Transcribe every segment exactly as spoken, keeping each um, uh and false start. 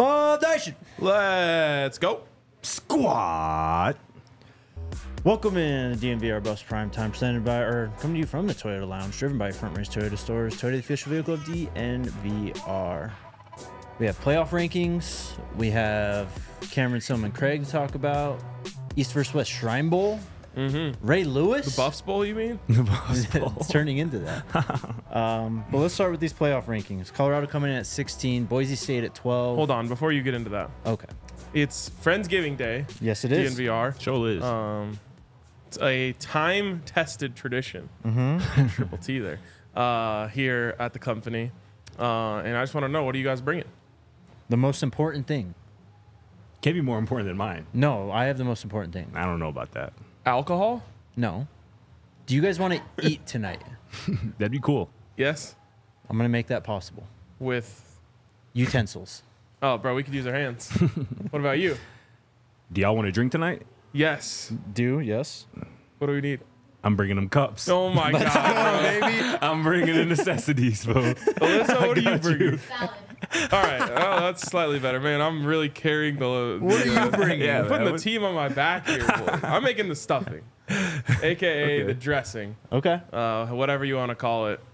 Mob Nation. Let's go. Squad. Welcome in to D M V R Bus Prime Time, presented by, or coming to you from the Toyota Lounge, driven by Front Range Toyota Stores, Toyota, the official vehicle of D N V R. We have playoff rankings. We have Cameron Silman Craig to talk about. East versus West Shrine Bowl. Mm-hmm. Ray Lewis. The Buffs Bowl, you mean? The Buffs Bowl. It's turning into that. um, but let's start with these playoff rankings. Colorado coming in at sixteen, Boise State at twelve. Hold on, before you get into that. Okay. It's Friendsgiving Day. Yes, it is. D N V R. Sure is. Um, it's a time-tested tradition. Mm-hmm. Triple T there. Uh, here at the company. Uh, and I just want to know, what are you guys bringing? The most important thing. Can't be more important than mine. No, I have the most important thing. I don't know about that. Alcohol? No. Do you guys want to eat tonight? That'd be cool. Yes. I'm going to make that possible. With, Utensils. oh, bro, we could use our hands. What about you? Do y'all want to drink tonight? Yes. Do, yes. What do we need? I'm bringing them cups. Oh, my God, baby. I'm bringing the necessities, bro. bro. Alyssa, what are you got you. bringing? Salad. All right. Oh, that's slightly better, man. I'm really carrying the. the What are you bringing? Yeah, I'm putting man. the team on my back here, boy. I'm making the stuffing, aka Okay. the dressing, Okay. uh, whatever you want to call it.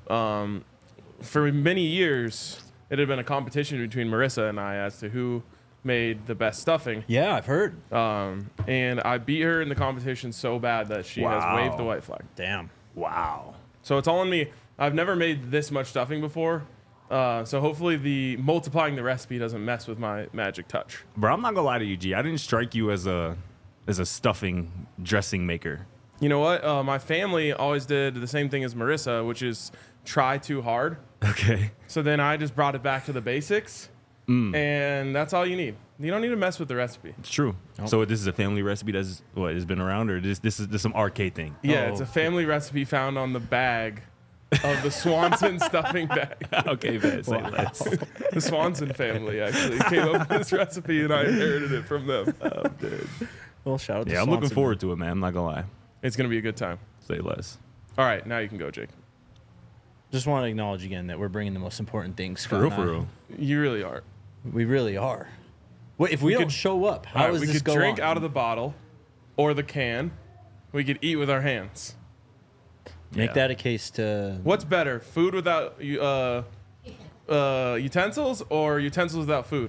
Um, for many years, it had been a competition between Marissa and I as to who made the best stuffing. Yeah, I've heard. Um, and I beat her in the competition so bad that she Wow. has waved the white flag. Damn. Wow. So it's all on me. I've never made this much stuffing before. Uh, so hopefully the multiplying the recipe doesn't mess with my magic touch. Bro, I'm not gonna lie to you, G. I didn't strike you as a as a stuffing dressing maker. You know what? Uh, my family always did the same thing as Marissa, which is try too hard. Okay. So then I just brought it back to the basics, Mm. and that's all you need. You don't need to mess with the recipe. It's true. Nope. So this is a family recipe that's what has been around, or this this is this some arcade thing? Yeah, Oh. it's a family recipe found on the bag of the Swanson stuffing bag. Okay, man. Say Wow. less. The Swanson family actually came up with this recipe, and I inherited it from them. Oh, dude. Well, shout out to Yeah, I'm looking Swanson. forward to it, man. I'm not gonna lie. It's going to be a good time. Say less. All right, now you can go, Jake. Just want to acknowledge again that we're bringing the most important things. For real, Scott for and I. real. You really are. We really are. Wait, if we, We don't could- show up, All how right, is we this could go drink on? out of the bottle or the can. We could eat with our hands. Make Yeah. that a case to. What's better, food without uh, uh, utensils or utensils without food?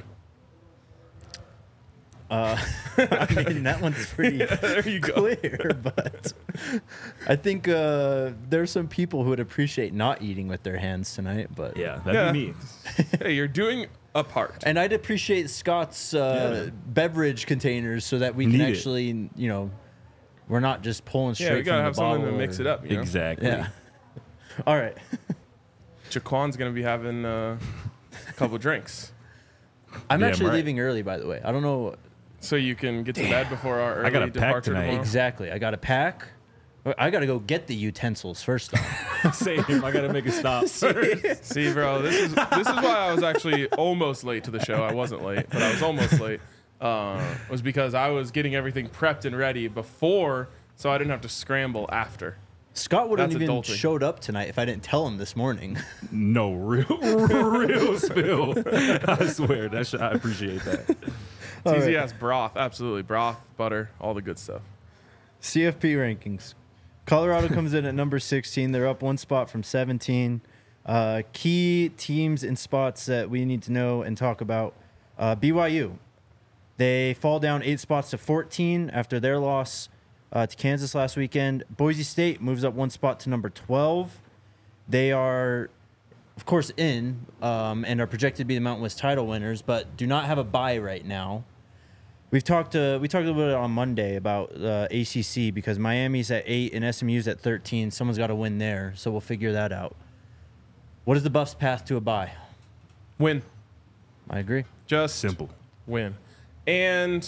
Uh, I mean, that one's pretty There you go. clear, but I think uh, there's some people who would appreciate not eating with their hands tonight. But Yeah, that'd Yeah. be me. Hey, you're doing a part. and I'd appreciate Scott's uh, Yeah. beverage containers so that we can Need it. actually, you know, we're not just pulling straight Yeah, we gotta from have the bottle. something to mix or- it up. You know? Exactly. Yeah. All right. Jaquan's gonna be having uh, a couple drinks, I'm Damn actually right. leaving early, by the way. I don't know so you can get to bed before our early I gotta pack departure tonight. tomorrow. exactly. I got to pack. I got to go get the utensils first off. Same. I gotta make a stop. See, bro, this is this is why I was actually almost late to the show. I wasn't late, but I was almost late. Uh, was because I was getting everything prepped and ready before, so I didn't have to scramble after. Scott wouldn't That's even adulting. showed up tonight if I didn't tell him this morning. No, real, real spill. I swear. That sh- I appreciate that. All Easy right. ass broth, absolutely broth, butter, all the good stuff. C F P rankings. Colorado comes in at number sixteen. They're up one spot from seventeen. Uh, key teams and spots that we need to know and talk about. Uh, B Y U. They fall down eight spots to fourteen after their loss uh, to Kansas last weekend. Boise State moves up one spot to number twelve. They are, of course, in um, and are projected to be the Mountain West title winners, but do not have a bye right now. We've talked uh, we talked a little bit on Monday about uh, A C C because Miami's at eight and S M U's at thirteen. Someone's got to win there, so we'll figure that out. What is the Buffs' path to a bye? Win, I agree. just Simple. win. And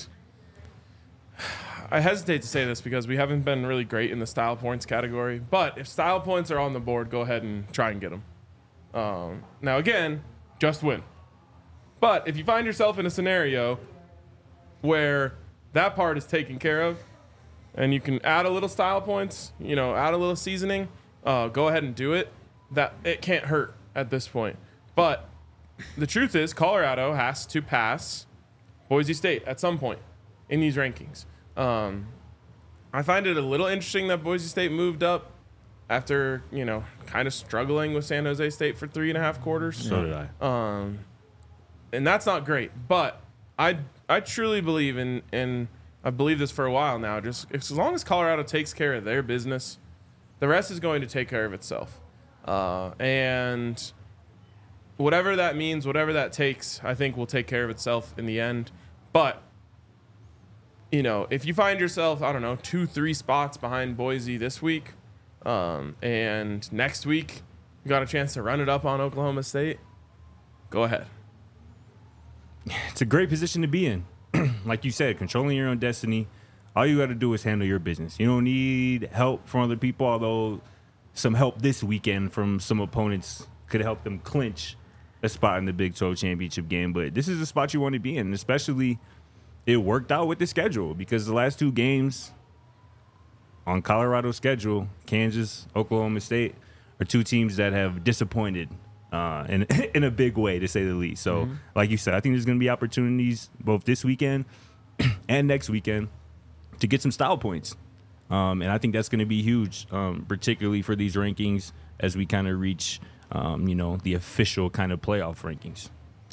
I hesitate to say this because we haven't been really great in the style points category. But if style points are on the board, go ahead and try and get them. Um, now, again, just win. But if you find yourself in a scenario where that part is taken care of and you can add a little style points, you know, add a little seasoning, uh, go ahead and do it. That it can't hurt at this point. But the truth is, Colorado has to pass Boise State at some point in these rankings. Um, I find it a little interesting that Boise State moved up after, you know, kind of struggling with San Jose State for three and a half quarters. So did I. Um, and that's not great. But I I truly believe in, and I've believed this for a while now, just as long as Colorado takes care of their business, the rest is going to take care of itself. Uh, and whatever that means, whatever that takes, I think will take care of itself in the end. But, you know, if you find yourself, I don't know, two, three spots behind Boise this week, um, and next week you got a chance to run it up on Oklahoma State, go ahead. It's a great position to be in. Like you said, controlling your own destiny. All you got to do is handle your business. You don't need help from other people, although some help this weekend from some opponents could help them clinch a spot in the Big twelve championship game. But this is the spot you want to be in, especially it worked out with the schedule because the last two games on Colorado's schedule, Kansas, Oklahoma State, are two teams that have disappointed uh, in, in a big way, to say the least. So, mm-hmm. like you said, I think there's going to be opportunities both this weekend and next weekend to get some style points. Um, and I think that's going to be huge, um, particularly for these rankings as we kind of reach, um, you know, the official kind of playoff rankings.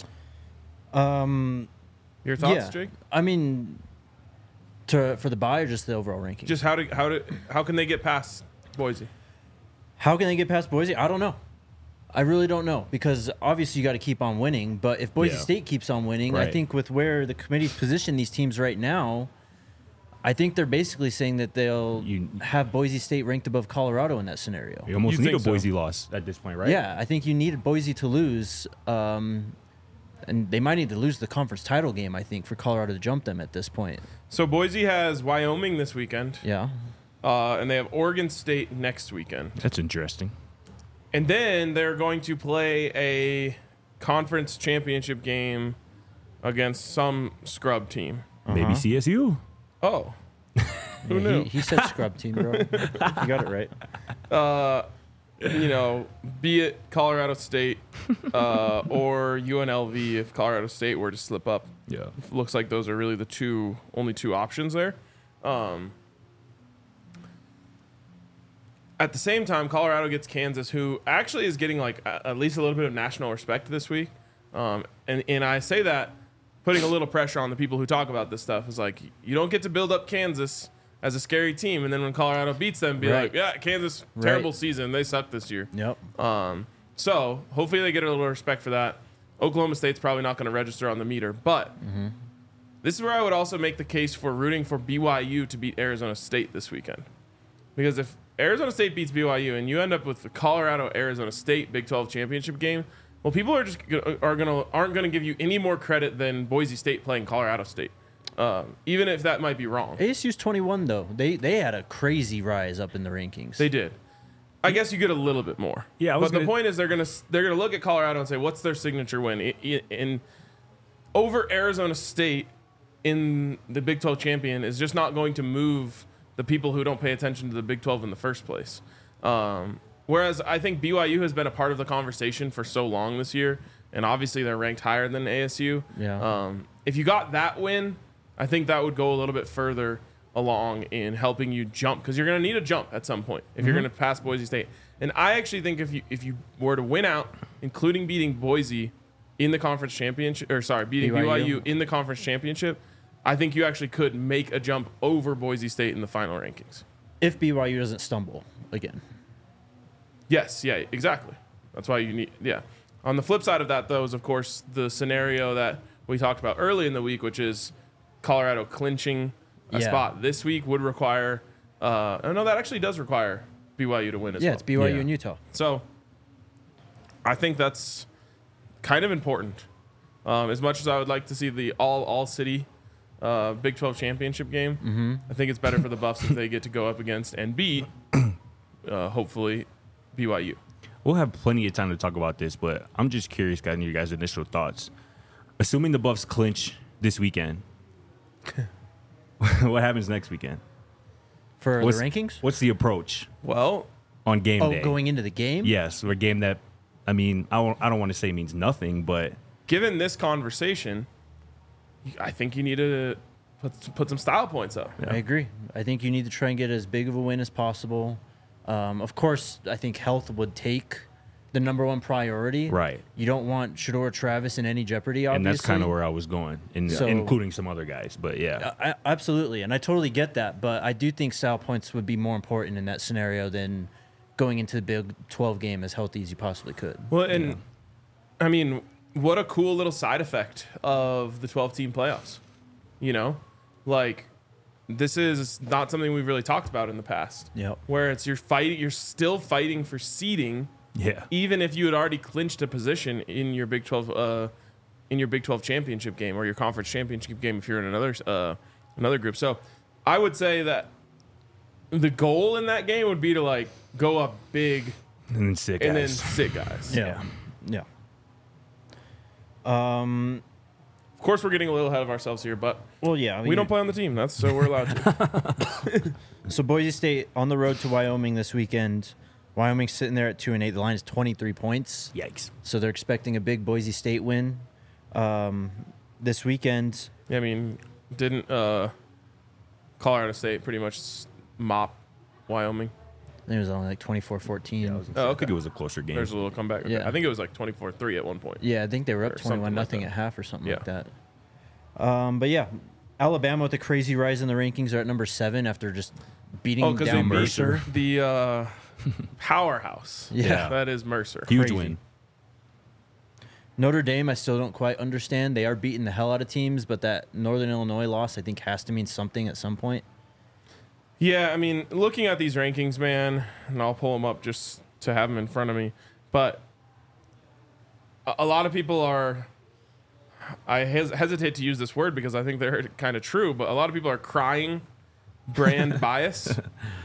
Um, Your thoughts, yeah. Jake? I mean, to for the bye or just the overall ranking? Just how to how to how can they get past Boise? How can they get past Boise? I don't know. I really don't know because obviously you got to keep on winning. But if Boise Yeah. State keeps on winning, Right. I think with where the committee's positioned these teams right now, I think they're basically saying that they'll You- have Boise State ranked above Colorado in that scenario. You almost You need a think so? Boise loss at this point, right? Yeah, I think you need Boise to lose, um, and they might need to lose the conference title game, I think, for Colorado to jump them at this point. So Boise has Wyoming this weekend, Yeah. uh, and they have Oregon State next weekend. That's interesting. And then they're going to play a conference championship game against some scrub team. Maybe C S U. Oh, who Yeah, knew? He, he said scrub team, bro. You got it right. Uh, you know, be it Colorado State uh, or U N L V if Colorado State were to slip up. Yeah. Looks like those are really the two only two options there. Um, at the same time, Colorado gets Kansas, who actually is getting like a, at least a little bit of national respect this week. Um, and and I say that putting a little pressure on the people who talk about this stuff is like you don't get to build up Kansas as a scary team, and then when Colorado beats them, be Right. like, yeah, Kansas terrible Right. season, they suck this year. Yep. Um, so hopefully they get a little respect for that. Oklahoma State's probably not going to register on the meter, but this is where I would also make the case for rooting for B Y U to beat Arizona State this weekend. Because if Arizona State beats B Y U and you end up with the Colorado Arizona State Big twelve championship game, well, people are just gonna, are gonna aren't going to give you any more credit than Boise State playing Colorado State, um, even if that might be wrong. A S U's twenty-one, though. They they had a crazy rise up in the rankings. They did. I guess you get a little bit more. Yeah, I was but the gonna- point is they're gonna they're gonna look at Colorado and say, what's their signature win? I- I- In over Arizona State in the Big twelve champion is just not going to move the people who don't pay attention to the Big twelve in the first place. Um, whereas I think B Y U has been a part of the conversation for so long this year, and obviously they're ranked higher than A S U. Yeah. Um, if you got that win, I think that would go a little bit further along in helping you jump because you're going to need a jump at some point if you're going to pass Boise State. And I actually think if you if you were to win out, including beating Boise in the conference championship, or sorry, beating B Y U, B Y U in the conference championship, I think you actually could make a jump over Boise State in the final rankings. If B Y U doesn't stumble again. Yes, yeah, exactly. That's why you need, yeah. On the flip side of that, though, is of course the scenario that we talked about early in the week, which is Colorado clinching a Yeah. spot this week would require. Uh, oh no, that actually does require B Y U to win as Yeah, well. it's B Y U Yeah. and Utah. So I think that's kind of important. Um, as much as I would like to see the all all city uh, Big twelve championship game, Mm-hmm. I think it's better for the Buffs if they get to go up against and beat, uh, hopefully, B Y U. We'll have plenty of time to talk about this, but I'm just curious, guys, your guys' initial thoughts. Assuming the Buffs clinch this weekend, what happens next weekend? For What's- the rankings? What's the approach Well, on game Oh, day? going into the game? Yes, or a game that I mean, I don't, I don't want to say means nothing, but Given this conversation, I think you need to put put some style points up. I agree. I think you need to try and get as big of a win as possible. Um, of course, I think health would take the number one priority. Right. You don't want Shedeur Travis in any jeopardy, obviously. and that's kind of where I was going, in, So- including some other guys. But yeah, I, absolutely, and I totally get that, but I do think style points would be more important in that scenario than going into the Big twelve game as healthy as you possibly could. Well, and I mean, what a cool little side effect of the twelve-team playoffs. You know, like this is not something we've really talked about in the past. Yep. Where it's you're fighting, you're still fighting for seeding, yeah, even if you had already clinched a position in your Big twelve, uh, in your Big twelve championship game or your conference championship game if you're in another uh, another group. So, I would say that the goal in that game would be to like go up big and then sick and then guys. sit guys. Yeah. Yeah. Um. Of course, we're getting a little ahead of ourselves here, but Well, yeah. I we mean, don't play on the team. That's so we're allowed to. So Boise State on the road to Wyoming this weekend. Wyoming's sitting there at two and eight. The line is twenty-three points. Yikes. So they're expecting a big Boise State win um, this weekend. I mean, didn't uh, Colorado State pretty much s- mop Wyoming? I think it was only like twenty-four fourteen. Yeah, I, was gonna Oh, say, I okay. think it was a closer game. There's a little comeback. Yeah. I think it was like twenty-four three at one point. Yeah, I think they were up Or something twenty-one like nothing that. at half or something Yeah. like that. Um, but yeah, Alabama with a crazy rise in the rankings are at number seven after just beating Oh, because they down beat Mercer. the uh, powerhouse. Yeah. That is Mercer. Huge crazy. win. Notre Dame, I still don't quite understand. They are beating the hell out of teams, but that Northern Illinois loss, I think, has to mean something at some point. Yeah, I mean, looking at these rankings, man, and I'll pull them up just to have them in front of me. But a, a lot of people are. I hes- hesitate to use this word because I think they're kind of true, but a lot of people are crying brand bias.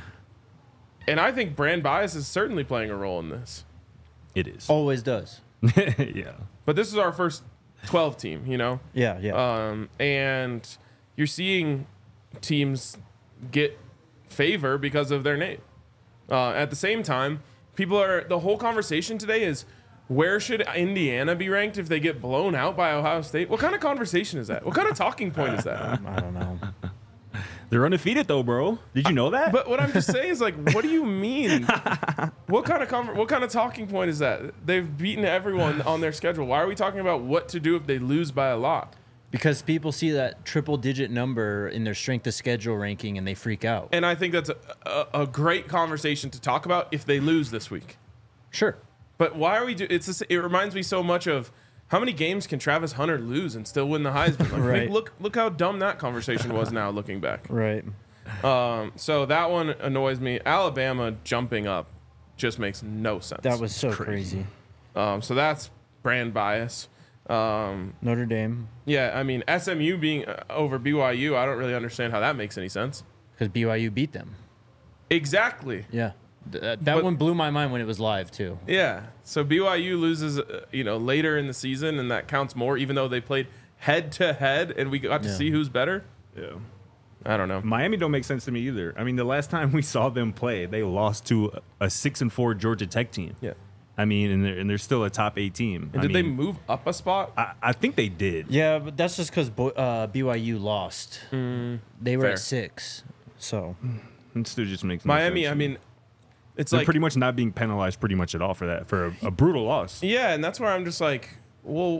And I think brand bias is certainly playing a role in this. It is. Always does. yeah. But this is our first twelve team, you know? Yeah, yeah. Um, and you're seeing teams get favor because of their name. Uh, at the same time, people are the whole conversation today is where should Indiana be ranked if they get blown out by Ohio State? What kind of conversation is that? What kind of talking point is that? I don't know. They're undefeated though, bro. Did you know that? But what I'm just saying is like, what do you mean? What kind of conver- what kind of talking point is that? They've beaten everyone on their schedule. Why are we talking about what to do if they lose by a lot? Because people see that triple digit number in their strength of schedule ranking and they freak out. And I think that's a, a, a great conversation to talk about if they lose this week. Sure. But why are we do? It's just, it reminds me so much of how many games can Travis Hunter lose and still win the Heisman? Like, Right. Look, look how dumb that conversation was. Now looking back, Right. um, so that one annoys me. Alabama jumping up just makes no sense. That was so crazy. crazy. um, so that's brand bias. Um, Notre Dame, yeah, I mean S M U being uh, over B Y U, I don't really understand how that makes any sense. because B Y U beat them. Exactly. Yeah. Th- that that But- one blew my mind when it was live, too. Yeah. So B Y U loses, uh, you know, later in the season, and that counts more, even though they played head to head, and we got to Yeah. see who's better. Yeah. I don't know. Miami don't make sense to me either. I mean, the last time we saw them play, they lost to a six and four Georgia Tech team. Yeah. I mean, and they're, and they're still a top eight team. And I did they mean, move up a spot? I, I think they did. Yeah, but that's just because Bo- uh, B Y U lost. they were fair. at six. So, It still just makes no Miami, sense I to me. mean, it's they're like pretty much not being penalized pretty much at all for that, for a, a brutal loss. yeah, and that's where I'm just like, well,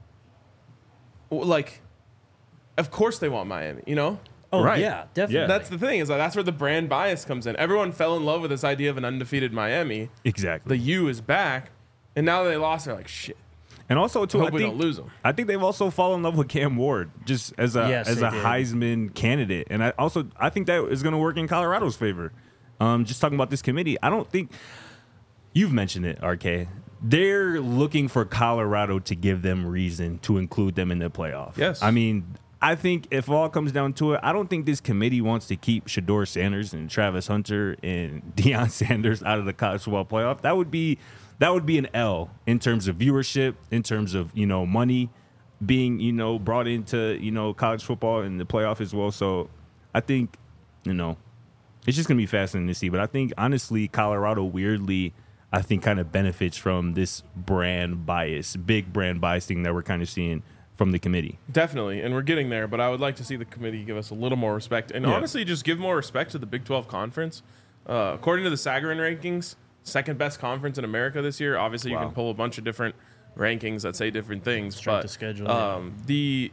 well, like, of course they want Miami, you know? oh, Right. yeah, definitely. Yeah. That's the thing is that that's where the brand bias comes in. Everyone fell in love with this idea of an undefeated Miami. Exactly. The U is back, and now that they lost, they're like, shit. And also, too, Hope I we think, don't lose them. I think they've also fallen in love with Cam Ward just as a Yes, as they a did. Heisman candidate, and I also I think that is going to work in Colorado's favor. Um, just talking about this committee, I don't think you've mentioned it, R K. They're looking for Colorado to give them reason to include them in the playoff. Yes. I mean, I think if all comes down to it, I don't think this committee wants to keep Shedeur Sanders and Travis Hunter and Deion Sanders out of the college football playoff. That would be that would be an L in terms of viewership, in terms of, you know, money being, you know, brought into, you know, college football and the playoff as well. So I think, you know, it's just going to be fascinating to see. But I think, honestly, Colorado weirdly, I think kind of benefits from this brand bias, big brand bias thing that we're kind of seeing from the committee. Definitely, and we're getting there, but I would like to see the committee give us a little more respect, and Yeah. honestly, just give more respect to the Big twelve conference. Uh, according to the Sagarin rankings, second best conference in America this year. Obviously, Wow. you can pull a bunch of different rankings that say different things, Strength but of schedule, yeah. um, the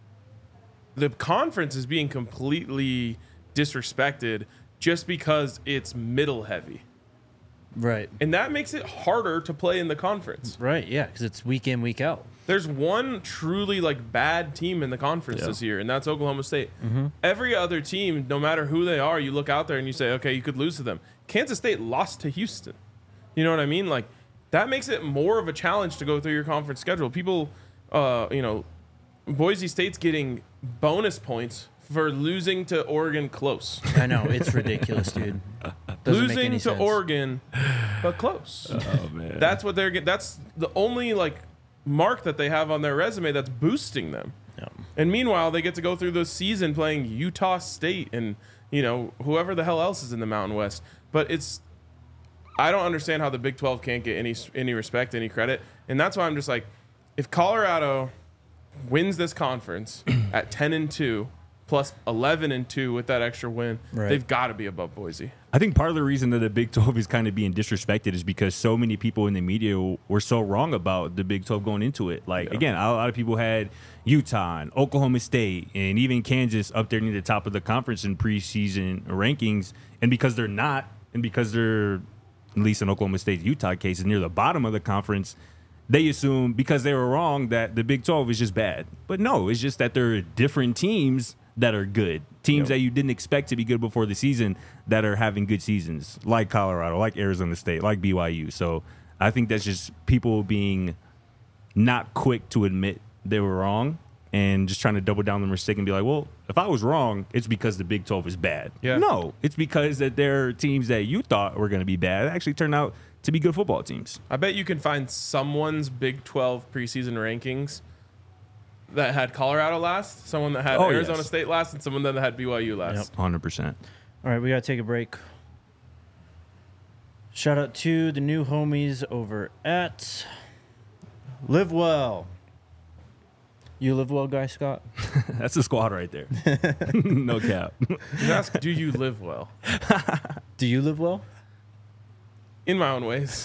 the conference is being completely disrespected just because it's middle heavy, Right. and that makes it harder to play in the conference. Right. Yeah, because it's week in, week out. There's one truly like bad team in the conference Yeah. this year, and that's Oklahoma State. Every other team, no matter who they are, you look out there and you say, okay, you could lose to them. Kansas State lost to Houston. You know what I mean? Like that makes it more of a challenge to go through your conference schedule. People, uh, you know, Boise State's getting bonus points for losing to Oregon close. I know it's ridiculous, dude. Doesn't make losing any to sense. Oregon, but close. Oh man, That's what they're getting. That's the only like mark that they have on their resume that's boosting them. Yeah. And meanwhile, they get to go through the season playing Utah State and, you know, whoever the hell else is in the Mountain West. But it's, I don't understand how the Big twelve can't get any any respect, any credit. And that's why I'm just like, if Colorado wins this conference at ten and two plus eleven and two with that extra win, Right. they've got to be above Boise. I think part of the reason that the Big twelve is kind of being disrespected is because so many people in the media were so wrong about the Big twelve going into it. Like, Yeah. again, a lot of people had Utah and Oklahoma State and even Kansas up there near the top of the conference in preseason rankings. And because they're not, and because they're, at least in Oklahoma State's Utah case, is near the bottom of the conference, they assume because they were wrong that the Big twelve is just bad. But no, it's just that there are different teams that are good. Teams Yep. that you didn't expect to be good before the season that are having good seasons, like Colorado, like Arizona State, like B Y U. So I think that's just people being not quick to admit they were wrong and just trying to double down on the mistake and be like, well, if I was wrong, it's because the Big twelve is bad. Yeah. No, it's because that there are teams that you thought were going to be bad that actually turned out to be good football teams. I bet you can find someone's Big twelve preseason rankings that had Colorado last, someone that had Oh, Arizona yes. State last, and someone that had B Y U last. Yep. one hundred percent. All right, we got to take a break. Shout out to the new homies over at Live Well. You live well, guy, Scott? That's a squad right there. No cap. Just ask, do you live well? Do you live well? In my own ways.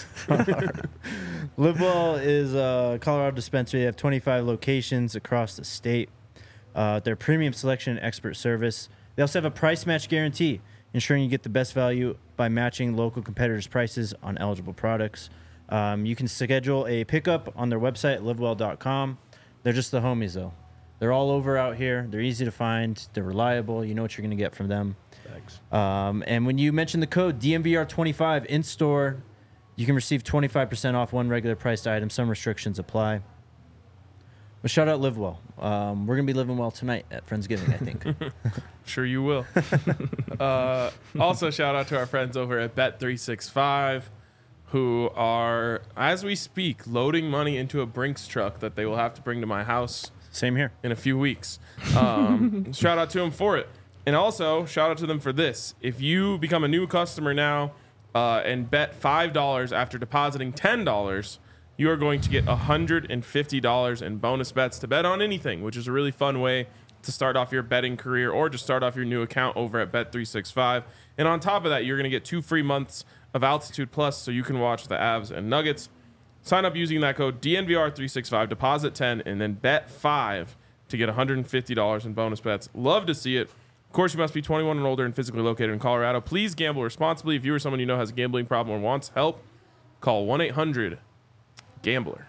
Live Well is a Colorado dispensary. They have twenty-five locations across the state. Uh, their premium selection and expert service. They also have a price match guarantee, ensuring you get the best value by matching local competitors' prices on eligible products. Um, you can schedule a pickup on their website, live well dot com. They're just the homies, though. They're all over out here. They're easy to find. They're reliable. You know what you're going to get from them. Thanks. Um, and when you mention the code D M V R twenty-five in store, you can receive twenty-five percent off one regular priced item. Some restrictions apply. But shout out Live Well. Um, we're going to be living well tonight at Friendsgiving, I think. Sure you will. uh, also, shout out to our friends over at Bet three sixty-five, who are, as we speak, loading money into a Brinks truck that they will have to bring to my house Same here. in a few weeks. Um, shout out to them for it. And also, shout out to them for this. If you become a new customer now uh, and bet five dollars after depositing ten dollars, you are going to get one hundred fifty dollars in bonus bets to bet on anything, which is a really fun way to start off your betting career or just start off your new account over at Bet three sixty-five. And on top of that, you're going to get two free months of Altitude Plus so you can watch the Avs and Nuggets. Sign up using that code D N V R three sixty-five, deposit ten, and then bet five to get one hundred fifty dollars in bonus bets. Love to see it. Of course, you must be twenty-one and older and physically located in Colorado. Please gamble responsibly. If you or someone you know has a gambling problem or wants help, call one eight hundred gambler.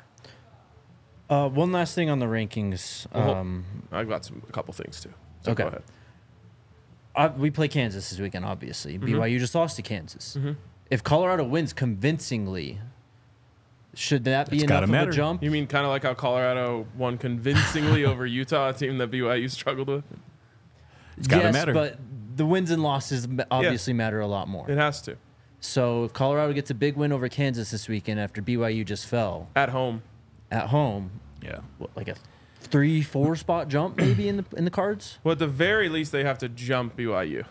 Uh, one last thing on the rankings. Well, Um, I've got some a couple things too. So Okay. go ahead. uh, we play Kansas this weekend, obviously. B Y U just lost to Kansas. If Colorado wins convincingly, should that be It's enough gotta of matter. a jump? You mean kind of like how Colorado won convincingly over Utah, a team that B Y U struggled with? It's gotta yes, matter. but the wins and losses ma- obviously matter a lot more. It has to. So if Colorado gets a big win over Kansas this weekend after B Y U just fell At home. at home, Yeah. what, like a three, four spot jump maybe in the in the cards? Well, at the very least, they have to jump B Y U.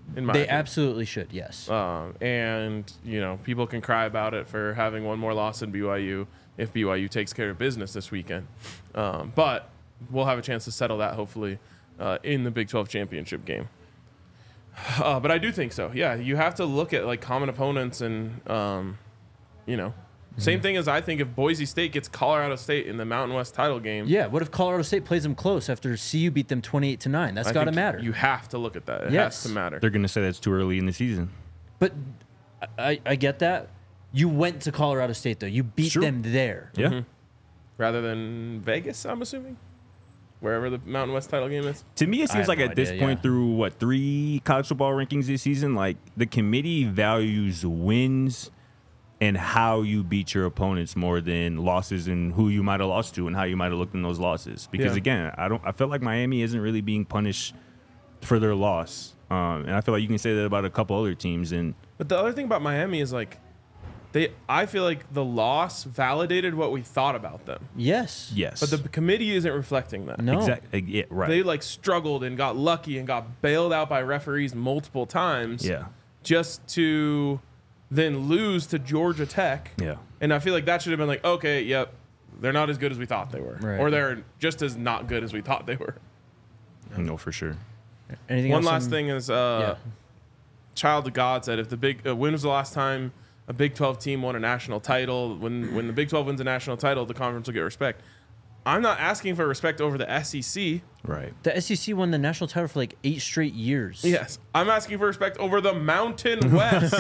In my They opinion. absolutely should, yes. Um, and, you know, people can cry about it for having one more loss than B Y U if B Y U takes care of business this weekend. Um, but we'll have a chance to settle that, hopefully, uh, in the Big twelve championship game. Uh, but I do think so. Yeah, you have to look at, like, common opponents and, um, you know, same thing as I think if Boise State gets Colorado State in the Mountain West title game. Yeah, what if Colorado State plays them close after C U beat them twenty-eight to nine? That's I got to think matter. You have to look at that. It Yes. has to matter. They're going to say that's too early in the season. But I, I get that. You went to Colorado State, though. You beat Sure. them there. Yeah. Mm-hmm. Rather than Vegas, I'm assuming, wherever the Mountain West title game is. To me, it I seems have like no at this idea, point yeah. through, what, three college football rankings this season, like the committee values wins and how you beat your opponents more than losses and who you might have lost to and how you might have looked in those losses. Because Yeah. again, I don't. I feel like Miami isn't really being punished for their loss, um, and I feel like you can say that about a couple other teams. And But the other thing about Miami is like, they. I feel like the loss validated what we thought about them, Yes. yes, but the committee isn't reflecting that. No. exactly, yeah, right, They like struggled and got lucky and got bailed out by referees multiple times. yeah, Just to then lose to Georgia Tech. yeah. And I feel like that should have been like, okay, yep, they're not as good as we thought they were, Right. or they're just as not good as we thought they were. No, for sure. Anything One else last on- thing is, uh, Yeah. Child of God said, if the big uh, when was the last time a Big twelve team won a national title? When when the Big twelve wins a national title, the conference will get respect. I'm not asking for respect over the S E C. Right. The S E C won the national title for like eight straight years. Yes, I'm asking for respect over the Mountain West.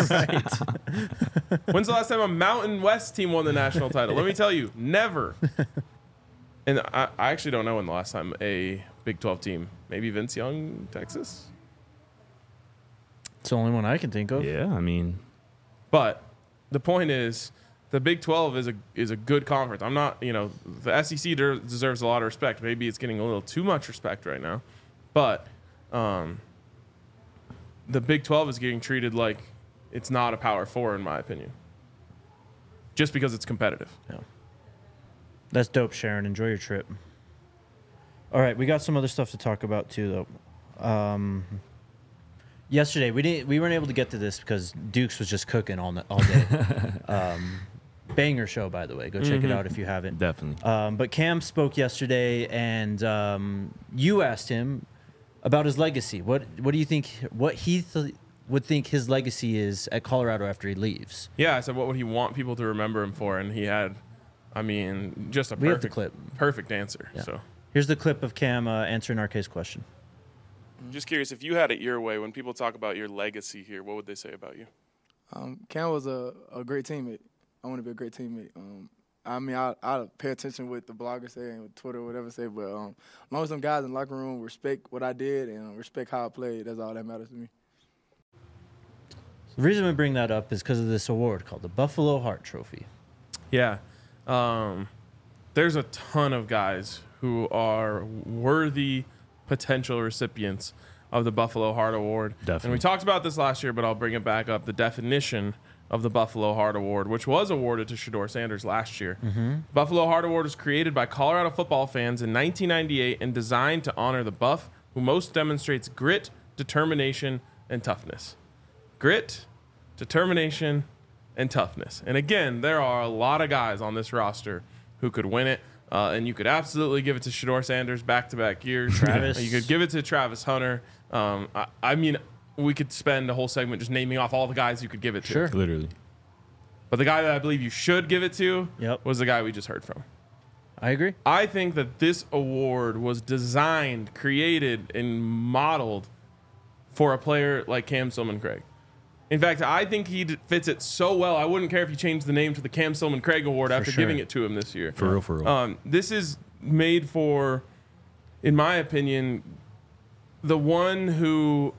When's the last time a Mountain West team won the national title? Let me tell you, never. And I, I actually don't know when the last time a Big twelve team, maybe Vince Young, Texas. It's the only one I can think of. Yeah, I mean, But the point is, the Big twelve is a is a good conference. I'm not, you know, the S E C de- deserves a lot of respect. Maybe it's getting a little too much respect right now, but um, the Big twelve is getting treated like it's not a Power Four, in my opinion, just because it's competitive. Yeah. That's dope, Sharon. Enjoy your trip. All right, we got some other stuff to talk about too, though. Um, yesterday we didn't we weren't able to get to this because Dukes was just cooking all ni- all day. um, banger show, by the way. Go check it out if you haven't. definitely. Um, but Cam spoke yesterday, and um, you asked him about his legacy. What what do you think? What he th- would think his legacy is at Colorado after he leaves? Yeah, I said, what would he want people to remember him for? And he had, I mean, just a We have the perfect, clip. perfect answer. Yeah. So. Here's the clip of Cam uh, answering our case question. I'm just curious, if you had it your way, when people talk about your legacy here, what would they say about you? Um, Cam was a, a great teammate. I want to be a great teammate. Um, I mean, I I pay attention what the bloggers say and what Twitter or whatever say, but um, as long as some guys in the locker room respect what I did and respect how I played, that's all that matters to me. The reason we bring that up is because of this award called the Buffalo Heart Trophy. Yeah. Um, there's a ton of guys who are worthy potential recipients of the Buffalo Heart Award. Definitely. And we talked about this last year, but I'll bring it back up. The definition of the Buffalo Heart Award, which was awarded to Shedeur Sanders last year. Buffalo Heart Award was created by Colorado football fans in nineteen ninety-eight and designed to honor the Buff who most demonstrates grit, determination, and toughness. Grit, determination, and toughness. And again, there are a lot of guys on this roster who could win it. Uh, and you could absolutely give it to Shedeur Sanders back-to-back years. Travis. You could give it to Travis Hunter. Um, I, I mean, we could spend a whole segment just naming off all the guys you could give it to. Sure. Literally. But the guy that I believe you should give it to Yep. was the guy we just heard from. I agree. I think that this award was designed, created, and modeled for a player like Cam Stillman-Craig. In fact, I think he d- fits it so well. I wouldn't care if you changed the name to the Cam Stillman-Craig Award after sure. giving it to him this year. For real, for real. Um, this is made for, in my opinion, the one who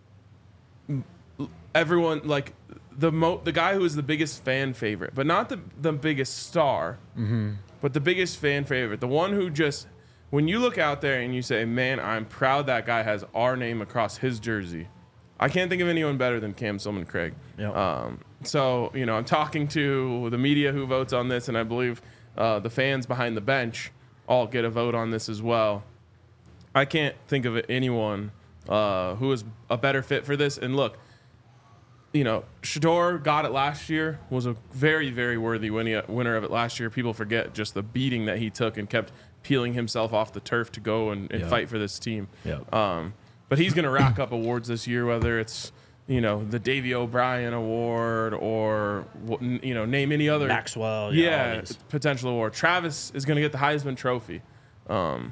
everyone like the mo the guy who is the biggest fan favorite, but not the the biggest star, but the biggest fan favorite. The one who just, when you look out there and you say, "Man, I'm proud that guy has our name across his jersey." I can't think of anyone better than Cam Stillman-Craig. Yep. Um, so, you know, I'm talking to the media who votes on this, and I believe uh, the fans behind the bench all get a vote on this as well. I can't think of anyone uh, who is a better fit for this. And look, you know, Shedeur got it last year, was a very, very worthy winning, winner of it last year. People forget just the beating that he took and kept peeling himself off the turf to go and, and Yeah. fight for this team. Yeah. Um, but he's going to rack up awards this year, whether it's, you know, the Davey O'Brien Award or, you know, name any other. Maxwell. Yeah, always. potential award. Travis is going to get the Heisman Trophy. Um,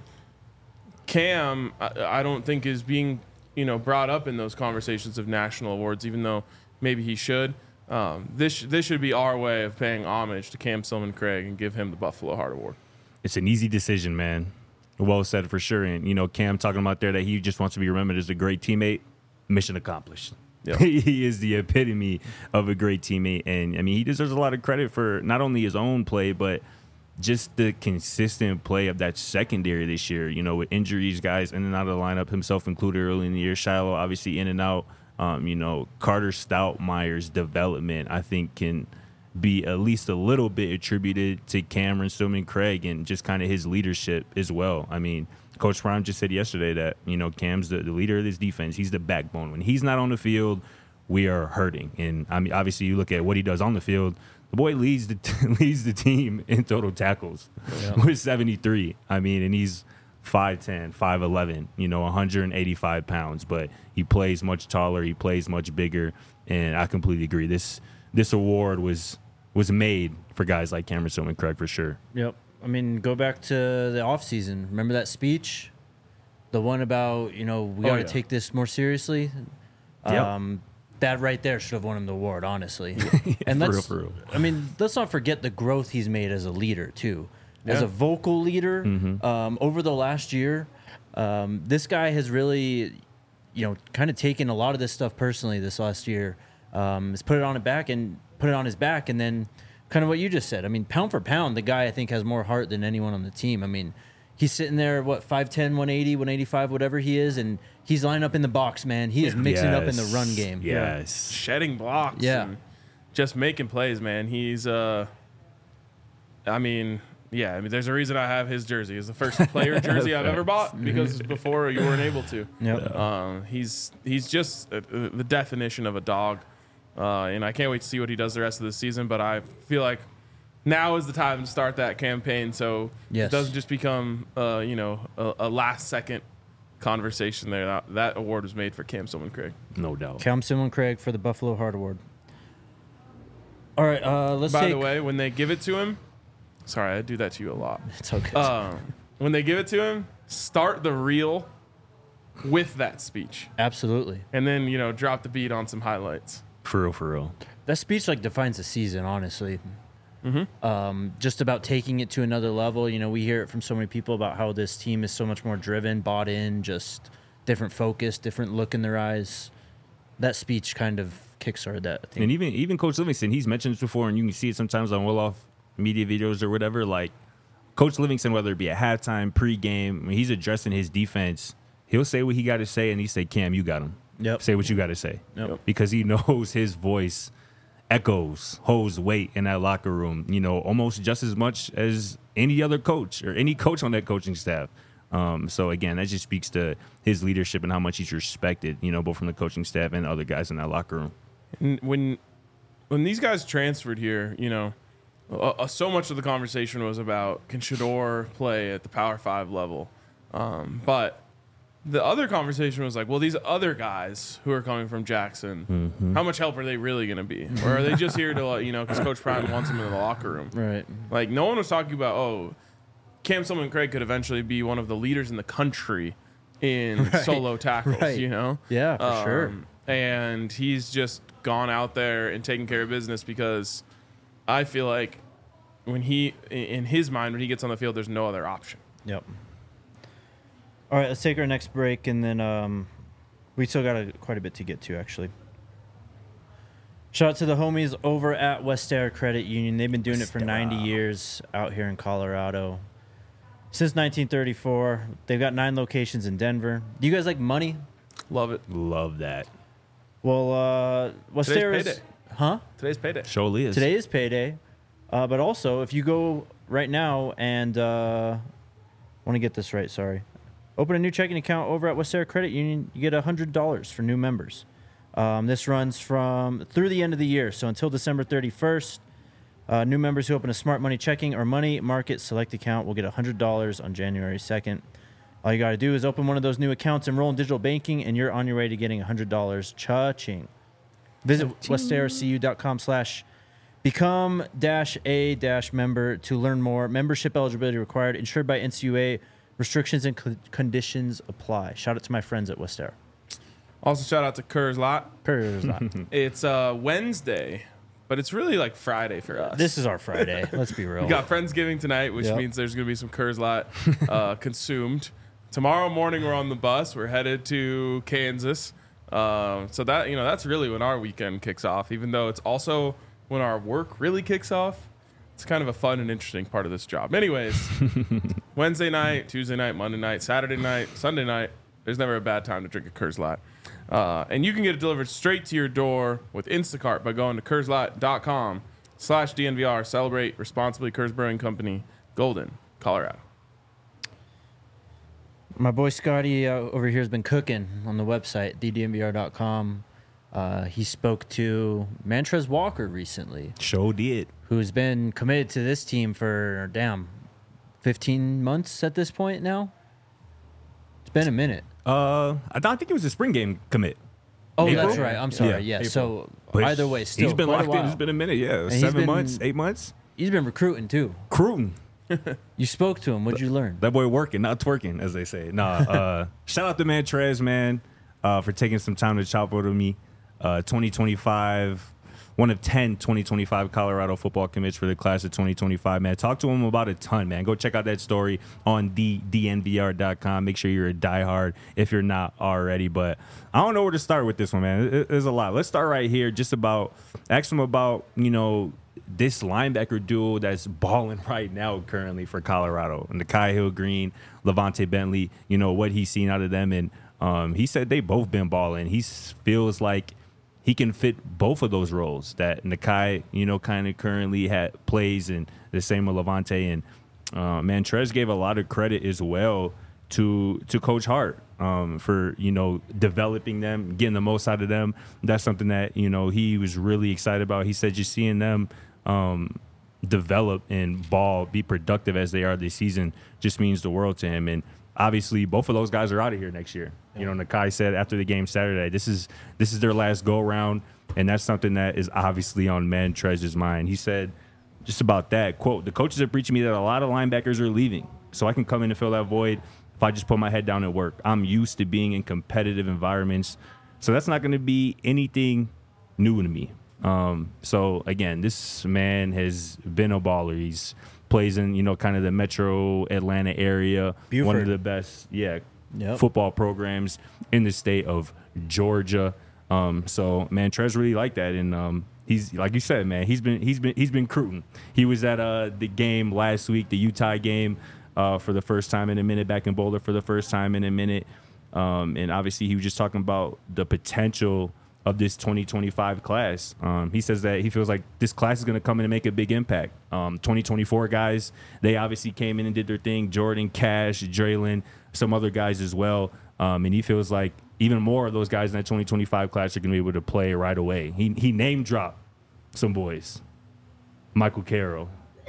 Cam, I, I don't think is being, you know, brought up in those conversations of national awards, even though maybe he should. Um, this this should be our way of paying homage to Cam Silman-Craig and give him the Buffalo Heart Award. It's an easy decision, man. Well said for sure. And, you know, Cam talking about there that he just wants to be remembered as a great teammate. Mission accomplished. Yep. He is the epitome of a great teammate. And, I mean, he deserves a lot of credit for not only his own play, but just the consistent play of that secondary this year, you know, with injuries, guys in and out of the lineup, himself included early in the year. Shiloh, obviously, in and out. Um, you know, Carter Stoutmire's development, I think, can be at least a little bit attributed to Cameron Silman-Craig and just kind of his leadership as well. I mean, Coach Prime just said yesterday that, you know, Cam's the, the leader of this defense. He's the backbone. When he's not on the field, we are hurting. And, I mean, obviously, you look at what he does on the field, the boy leads the leads the team in total tackles yeah. with seventy-three. I mean, and he's five ten, five eleven, you know, one hundred eighty-five pounds. But he plays much taller. He plays much bigger. And I completely agree. This this award was was made for guys like Cameron Silman-Craig for sure. Yep. I mean, go back to the offseason. Remember that speech? The one about, you know, we Oh, got to yeah. take this more seriously? Yep. Um, that right there should have won him the award, honestly. and for let's, real, for real. I mean, let's not forget the growth he's made as a leader, too. As Yeah. a vocal leader, Mm-hmm. um, over the last year, um, this guy has really, you know, kind of taken a lot of this stuff personally this last year. Um, has put it on it back and put it on his back, and then kind of what you just said. I mean, pound for pound, the guy I think has more heart than anyone on the team. I mean, he's sitting there, what, five ten, one eighty, one eighty-five, whatever he is, and he's lining up in the box, man. He is mixing up in the run game. Yes. Shedding blocks. Yeah. And just making plays, man. He's, uh, I mean, yeah, I mean, there's a reason I have his jersey. It's the first player jersey I've ever bought because before you weren't able to. Yep. Um, he's he's just uh, uh, the definition of a dog. Uh, and I can't wait to see what he does the rest of the season. But I feel like now is the time to start that campaign, so Yes. it doesn't just become, uh, you know, a, a last-second conversation there. That, that award was made for Cam Silman-Craig. No doubt. Cam Silman-Craig for the Buffalo Heart Award. All right, uh, let's By take. the way, when they give it to him, sorry, I do that to you a lot. It's okay. Um, when they give it to him, start the reel with that speech, Absolutely. and then you know drop the beat on some highlights. For real, for real. That speech like defines the season, honestly. Mm-hmm. Um, just about taking it to another level. You know, we hear it from so many people about how this team is so much more driven, bought in, just different focus, different look in their eyes. That speech kind of kickstarted that, I think. And even even Coach Livingston, he's mentioned this before, and you can see it sometimes on well-off media videos or whatever. Like, Coach Livingston, whether it be at halftime, pregame, when he's addressing his defense, he'll say what he got to say, and he say, Cam, you got him. Yep. Say what you got to say. Yep. Because he knows his voice echoes, holds weight in that locker room, you know, almost just as much as any other coach or any coach on that coaching staff. Um, so, again, that just speaks to his leadership and how much he's respected, you know, both from the coaching staff and other guys in that locker room. And when when these guys transferred here, you know, uh, uh, so much of the conversation was about can Shedeur play at the Power Five level, um, but the other conversation was like, well, these other guys who are coming from Jackson, Mm-hmm. how much help are they really going to be? Or are they just here to, uh, you know, because Coach Prime wants them in the locker room? Right. Like, no one was talking about, oh, Cam Silman-Craig could eventually be one of the leaders in the country in Right. solo tackles, Right. you know? Yeah, for sure. Um, And he's just gone out there and taken care of business because I feel like when he, in his mind, when he gets on the field, there's no other option. Yep. All right, let's take our next break, and then um, we still got a, quite a bit to get to, actually. Shout out to the homies over at Westair Credit Union. They've been doing it for ninety years out here in Colorado. Since nineteen thirty-four. They've got nine locations in Denver. Do you guys like money? Love it. Love that. Well, uh, Westair is... payday. Huh? Today's payday. Surely is. Today is payday. Uh, but also, if you go right now and... Uh, I want to get this right, sorry. Open a new checking account over at Westera Credit Union. You get one hundred dollars for new members. Um, this runs from through the end of the year, so until December thirty-first. Uh, new members who open a Smart Money checking or Money Market Select account will get one hundred dollars on January second. All you got to do is open one of those new accounts, enroll in digital banking, and you're on your way to getting one hundred dollars. Cha-ching. Visit westeracu.com slash become dash a dash member to learn more. Membership eligibility required. Insured by N C U A. Restrictions and co- conditions apply. Shout out to my friends at Westera. Also, shout out to Kerr's Lot. Kerr's Lot. It's uh, Wednesday, but it's really like Friday for us. This is our Friday. Let's be real. We got Friendsgiving tonight, which Yep. means there's going to be some Kerr's Lot uh, consumed. Tomorrow morning, we're on the bus. We're headed to Kansas. Um, so that you know, that's really when our weekend kicks off. Even though it's also when our work really kicks off. It's kind of a fun and interesting part of this job. Anyways, Wednesday night, Tuesday night, Monday night, Saturday night, Sunday night. There's never a bad time to drink a Kerr's Lot. Uh, and you can get it delivered straight to your door with Instacart by going to kerslot.com slash DNVR. Celebrate responsibly. Kerr's Brewing Company, Golden, Colorado. My boy Scotty uh, over here has been cooking on the website, the D N V R dot com. Uh, he spoke to Mantrez Walker recently, Show did. who's been committed to this team for, damn, fifteen months at this point now? It's been a minute. Uh, I, don't, I think it was a spring game commit. Oh, April? that's right. I'm sorry. Yeah. April. So But either way, still he's been quite a locked in. while. It's been a minute. Yeah, he's seven been- months, eight months. He's been recruiting too. Cruising. You spoke to him. What'd you learn? That boy working, not twerking, as they say. Nah, uh, shout out to Mantrez, man, uh, for taking some time to chop with me. Uh, twenty twenty-five, one of ten twenty twenty-five Colorado football commits for the class of twenty twenty-five, man. Talk to him about a ton, man. Go check out that story on the D N V R dot com. Make sure you're a diehard if you're not already. But I don't know where to start with this one, man. It- There's a lot. Let's start right here. Just about, ask him about, you know, this linebacker duo that's balling right now currently for Colorado. And the Kai Hill Green, Levante Bentley, you know, what he's seen out of them. And um, he said they both been balling. He s- feels like he can fit both of those roles that Nakai, you know, kind of currently had plays, and the same with Levante. And uh, Mantrez gave a lot of credit as well to to Coach Hart um, for, you know, developing them, getting the most out of them. That's something that, you know, he was really excited about. He said just seeing them um, develop and ball, be productive as they are this season just means the world to him. And obviously, both of those guys are out of here next year. You know, Nakai said after the game Saturday, this is this is their last go around, and that's something that is obviously on Mantrez's mind. He said just about that, quote, "The coaches are preaching me that a lot of linebackers are leaving, so I can come in and fill that void if I just put my head down and work. I'm used to being in competitive environments, so that's not going to be anything new to me." Um, so again, this man has been a baller. He's plays in, you know, kind of the metro Atlanta area. Buford. One of the best, yeah, Yep. football programs in the state of Georgia. Um, so Mantrez really liked that, and um, he's like you said, man. He's been he's been he's been recruiting. He was at uh, the game last week, the Utah game, uh, for the first time in a minute. Back in Boulder for the first time in a minute, um, and obviously he was just talking about the potential of this twenty twenty-five class. Um, he says that he feels like this class is going to come in and make a big impact. Um, twenty twenty-four guys, they obviously came in and did their thing. Jordan, Cash, Draylon, some other guys as well. Um, and he feels like even more of those guys in that twenty twenty-five class are going to be able to play right away. He he name dropped some boys. Michael Carroll,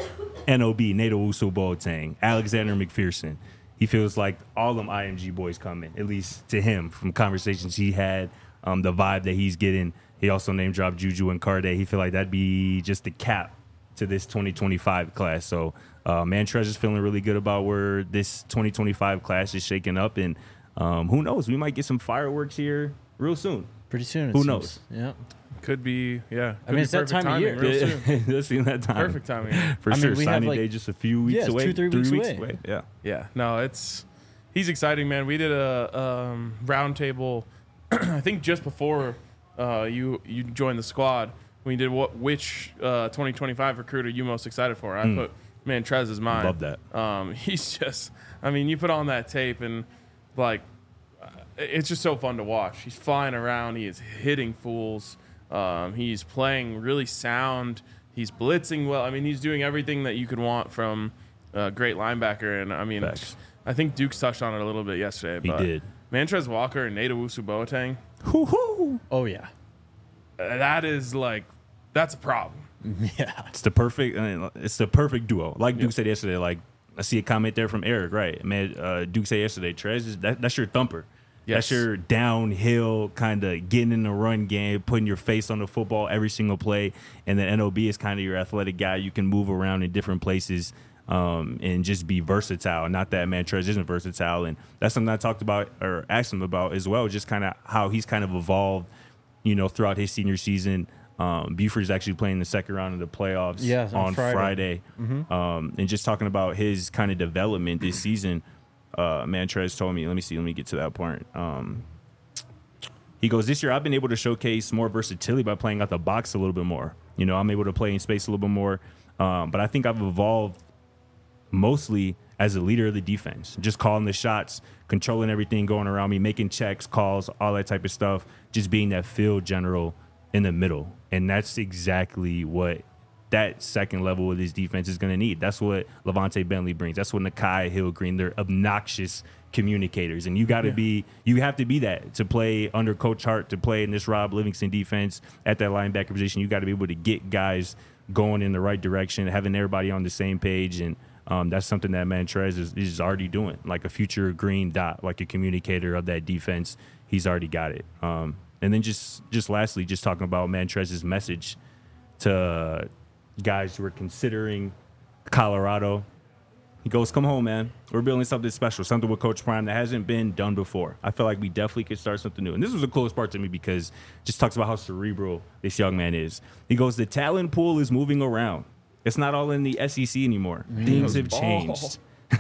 N O B, Nato Uso Boateng, Alexander McPherson. He feels like all them I M G boys coming, at least to him, from conversations he had, um, the vibe that he's getting. He also name dropped Juju and Carde. He feel like that'd be just the cap to this twenty twenty-five class. So uh, Mantrez is feeling really good about where this twenty twenty-five class is shaking up. And um, who knows? We might get some fireworks here real soon. Pretty soon. It Who seems. knows? Yeah. Could be, yeah. Could I mean, be it's that perfect time of timing year. real soon. That's in that time. Perfect timing. For I mean, sure. we have, Signing like- day just a few weeks Yeah, it's away. two, three weeks away. Yeah. Yeah, no, it's he's exciting, man. We did a um, roundtable, I think just before uh, you you joined the squad. We did what which uh, twenty twenty-five recruit are you most excited for? I Mm. put Mantrez as mine. Love that. Um, he's just, I mean, you put on that tape and like, uh, it's just so fun to watch. He's flying around. He is hitting fools. Um, he's playing really sound. He's blitzing well. I mean, he's doing everything that you could want from a great linebacker. And I mean, Facts. I think Duke's touched on it a little bit yesterday. He but did. Mantrez Walker and Nate Owusu-Boateng, Hoo-hoo. Oh yeah. uh, that is like, that's a problem. Yeah. It's the perfect. I mean, it's the perfect duo. Like Duke said yesterday. Like I see a comment there from Eric. Right, man. Uh, Duke said yesterday. Trez is that, that's your thumper. Yes. That's your downhill kind of getting in the run game, putting your face on the football every single play. And then N O B is kind of your athletic guy. You can move around in different places um, and just be versatile. Not that Mantrez isn't versatile, and that's something I talked about or asked him about as well. Just kind of how he's kind of evolved, you know, throughout his senior season. Um, Buford's actually playing the second round of the playoffs Yeah, on on Friday. Friday. Mm-hmm. Um, and just talking about his kind of development this season, uh, Mantrez told me, let me see, let me get to that point. Um, he goes, this year I've been able to showcase more versatility by playing out the box a little bit more. You know, I'm able to play in space a little bit more. Um, but I think I've evolved mostly as a leader of the defense, just calling the shots, controlling everything going around me, making checks, calls, all that type of stuff, just being that field general in the middle. And that's exactly what that second level of this defense is going to need. That's what Levante Bentley brings. That's what Nakai Hill-Green, they're obnoxious communicators. And you got to yeah. be, you have to be that to play under Coach Hart, to play in this Rob Livingston defense at that linebacker position. You got to be able to get guys going in the right direction, having everybody on the same page. And um, that's something that Mantrez is, is already doing, like a future green dot, like a communicator of that defense. He's already got it. Um, And then just, just lastly, just talking about Mantrez's message to guys who are considering Colorado. He goes, come home, man. We're building something special, something with Coach Prime that hasn't been done before. I feel like we definitely could start something new. And this was the coolest part to me because it just talks about how cerebral this young man is. He goes, the talent pool is moving around. It's not all in the S E C anymore. Mm, Things have ball. changed.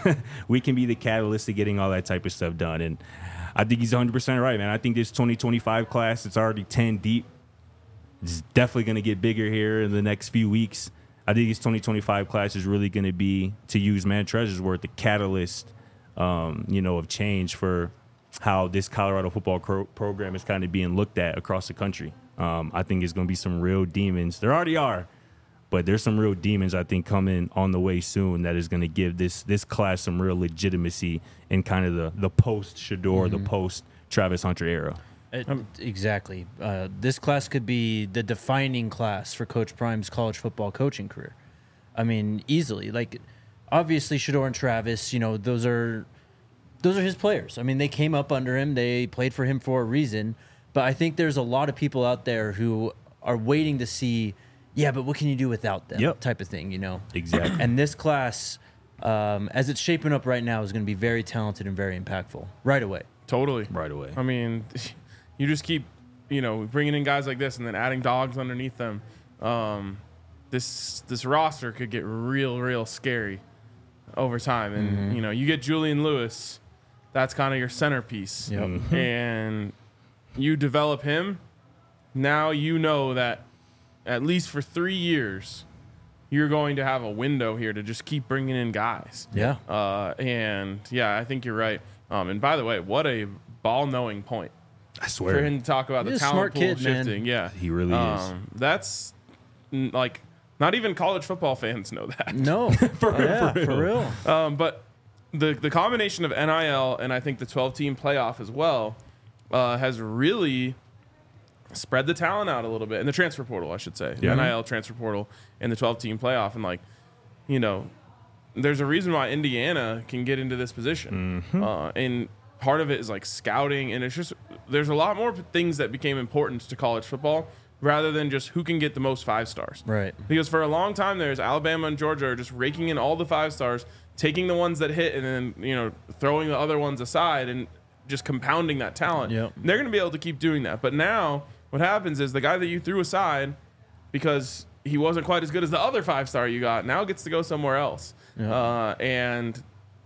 We can be the catalyst to getting all that type of stuff done. And I think he's one hundred percent right, man. I think this twenty twenty-five class, it's already ten deep. It's definitely going to get bigger here in the next few weeks. I think this twenty twenty-five class is really going to be, to use Mantrez's word, the catalyst, um, you know, of change for how this Colorado football cro- program is kind of being looked at across the country. Um, I think it's going to be some real demons. There already are, but there's some real demons, I think, coming on the way soon that is going to give this this class some real legitimacy in kind of the, the post-Shador, mm-hmm. the post-Travis Hunter era. It, exactly. Uh, this class could be the defining class for Coach Prime's college football coaching career. I mean, easily. Like, obviously, Shador and Travis, you know, those are those are his players. I mean, they came up under him. They played for him for a reason. But I think there's a lot of people out there who are waiting to see, yeah, but what can you do without them? Yep. Type of thing, you know? Exactly. And this class, um, as it's shaping up right now, is going to be very talented and very impactful right away. Totally. Right away. I mean, you just keep, you know, bringing in guys like this and then adding dogs underneath them. Um, this this roster could get real, real scary over time. And, mm-hmm. you know, you get Julian Lewis, that's kind of your centerpiece. Yep. Mm-hmm. And you develop him, now you know that at least for three years, you're going to have a window here to just keep bringing in guys. Yeah. Uh, and, yeah, I think you're right. Um, and, by the way, what a ball-knowing point. I swear. For him to talk about He's the a talent smart pool kid, shifting. man. Yeah. He really um, is. That's, n- like, not even college football fans know that. No. For real, yeah, for real. For real. Um, but the the combination of N I L and I think the twelve-team playoff as well uh, has really spread the talent out a little bit. In the transfer portal, I should say. Yeah. N I L transfer portal and the twelve-team playoff. And, like, you know, there's a reason why Indiana can get into this position. Mm-hmm. Uh, and part of it is, like, scouting. And it's just there's a lot more things that became important to college football rather than just who can get the most five stars. Right. Because for a long time, there's Alabama and Georgia are just raking in all the five stars, taking the ones that hit, and then, you know, throwing the other ones aside and just compounding that talent. Yep. They're going to be able to keep doing that. But now what happens is the guy that you threw aside because he wasn't quite as good as the other five star you got now gets to go somewhere else. Yep. Uh, and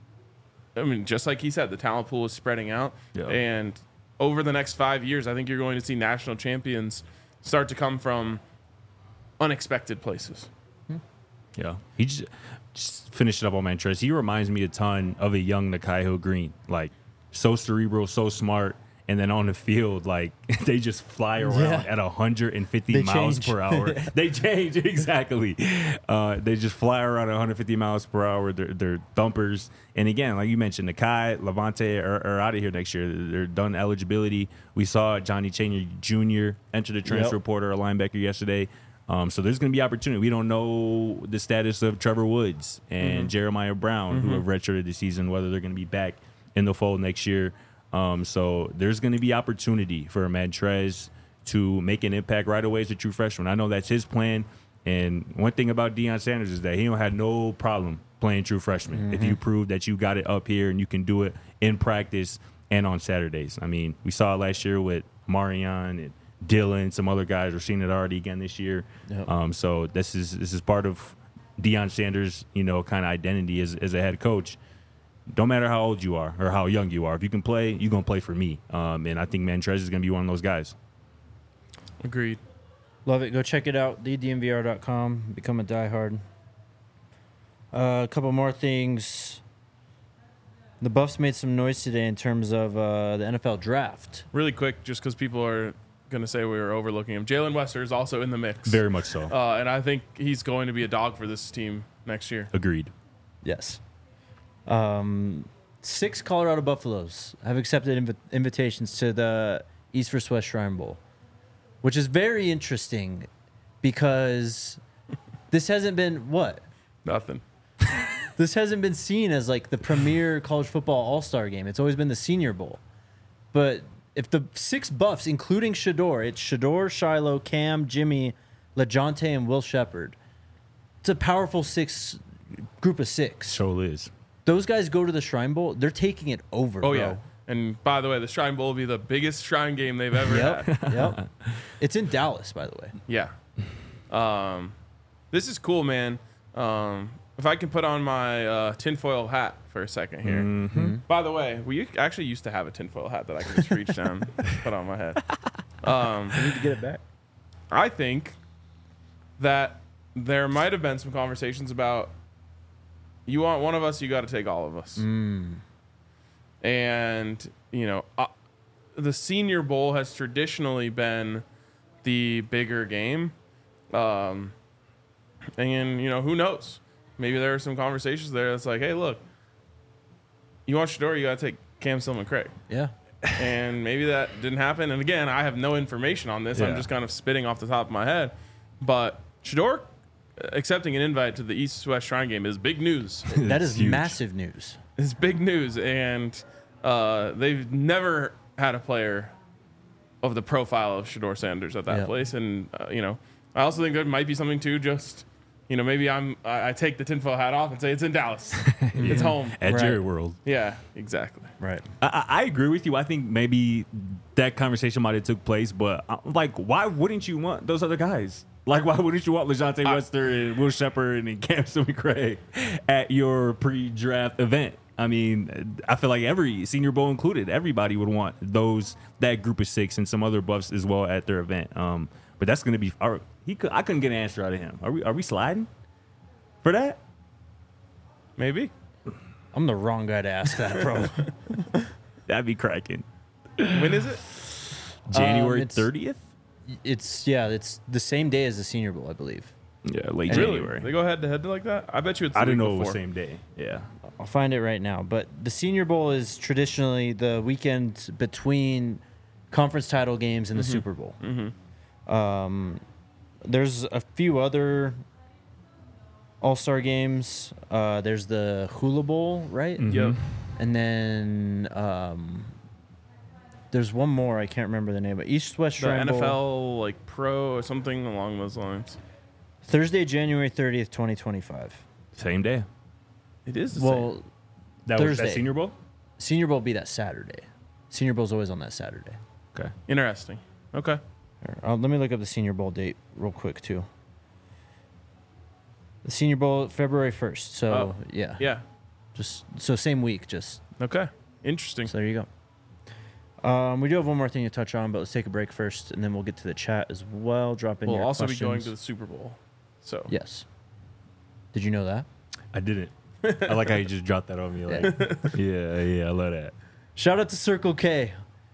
I mean, just like he said, the talent pool is spreading out. Yep. And over the next five years, I think you're going to see national champions start to come from unexpected places. Yeah. He just, just finished it up on Mantrez. He reminds me a ton of a young Nakai Hill-Green. Like, so cerebral, so smart, and then on the field, like they just fly around Yeah. at one hundred fifty They miles change. per hour. They change exactly. Uh, they just fly around at one hundred fifty miles per hour. They're, they're thumpers. And again, like you mentioned, Nakai, Levante are, are out of here next year. They're done eligibility. We saw Johnny Changer Junior enter the transfer Yep. portal, a linebacker yesterday. Um, so there's going to be opportunity. We don't know the status of Trevor Woods and Mm-hmm. Jeremiah Brown, who have redshirted this season, whether they're going to be back in the fold next year. Um, so there's going to be opportunity for Montrez to make an impact right away as a true freshman. I know that's his plan. And one thing about Deion Sanders is that he don't have no problem playing true freshman if you prove that you got it up here and you can do it in practice and on Saturdays. I mean, we saw it last year with Marion and Dylan, some other guys. We're seeing it already again this year. Yep. Um, so this is this is part of Deion Sanders, you know, kind of identity as, as a head coach. Don't matter how old you are or how young you are. If you can play, you're going to play for me. Um, and I think Montrez is going to be one of those guys. Agreed. Love it. Go check it out. the d m v r dot com. Become a diehard. Uh, a couple more things. The Buffs made some noise today in terms of uh, the N F L draft. Really quick, just because people are going to say we were overlooking him. Jalen Wester is also in the mix. Very much so. Uh, and I think he's going to be a dog for this team next year. Agreed. Yes. Um, six Colorado Buffaloes have accepted inv- invitations to the East versus West Shrine Bowl, which is very interesting because this hasn't been what? Nothing. This hasn't been seen as like the premier college football all-star game. It's always been the Senior Bowl. But if the six Buffs, including Shador, it's Shador, Shiloh, Cam, Jimmy, LeJounte, and Will Shepard. It's a powerful six group of six. So is. Those guys go to the Shrine Bowl, they're taking it over, Oh, bro. yeah. And by the way, the Shrine Bowl will be the biggest Shrine game they've ever Yep, had. yep. It's in Dallas, by the way. Yeah. Um, this is cool, man. Um, if I can put on my uh, tinfoil hat for a second here. Mm-hmm. By the way, we actually used to have a tinfoil hat that I could just reach down and put on my head. Um, I need to get it back. I think that there might have been some conversations about you want one of us, you got to take all of us. And, you know, uh, the Senior Bowl has traditionally been the bigger game. Um, and, you know, who knows? Maybe there are some conversations there that's like, hey, look, you want Shador, you got to take Cam Stillman Craig. Yeah. And maybe that didn't happen. And again, I have no information on this. I'm Yeah. just kind of spitting off the top of my head. But Shador accepting an invite to the East-West Shrine game is big news. That is It's huge. massive news. It's big news. And uh, they've never had a player of the profile of Shador Sanders at that Yeah. place. And, uh, you know, I also think there might be something too just, you know, maybe I'm I, I take the tinfoil hat off and say it's in Dallas. It's home. At Right. Jerry World. Yeah, exactly. Right. I, I I agree with you. I think maybe that conversation might have took place, but uh, like, why wouldn't you want those other guys? Like, why wouldn't you want LeJounte Wester and Will Shepard and Cam Stillman Craig at your pre-draft event? I mean, I feel like every Senior Bowl included, everybody would want those that group of six and some other Buffs as well at their event. Um, but that's going to be. Are, he could. I couldn't get an answer out of him. Are we? Are we sliding for that? Maybe. I'm the wrong guy to ask that, bro. That'd be cracking. When is it? January it's- thirtieth. it's, yeah, it's the same day as the Senior Bowl, I believe. Yeah, late Really? January. They go head to head like that? I bet you it's the I didn't week know it was before. same day. Yeah. I'll find it right now. But the Senior Bowl is traditionally the weekend between conference title games and the Super Bowl. Mm-hmm. Um, there's a few other All-Star games. Uh, there's the Hula Bowl, right? Mhm. Yep. And then um, there's one more. I can't remember the name. But East-West The Shrine N F Bowl. L like pro or something along those lines. Thursday, January thirtieth, twenty twenty-five. Same day. It is the same. Well, That was Thursday. that Senior Bowl. Senior Bowl will be that Saturday. Senior Bowl's always on that Saturday. Okay. Interesting. Okay. Here, uh, let me look up the Senior Bowl date real quick, too. The Senior Bowl, February first. So, Oh. yeah. Yeah. Just so same week, just Okay. Interesting. so there you go. Um, we do have one more thing to touch on, but let's take a break first, and then we'll get to the chat as well. Drop in We'll your also questions. be going to the Super Bowl. So Yes. Did you know that? I didn't. I like how you just dropped that on me. Like, yeah, yeah, I love that. Shout out to Circle K.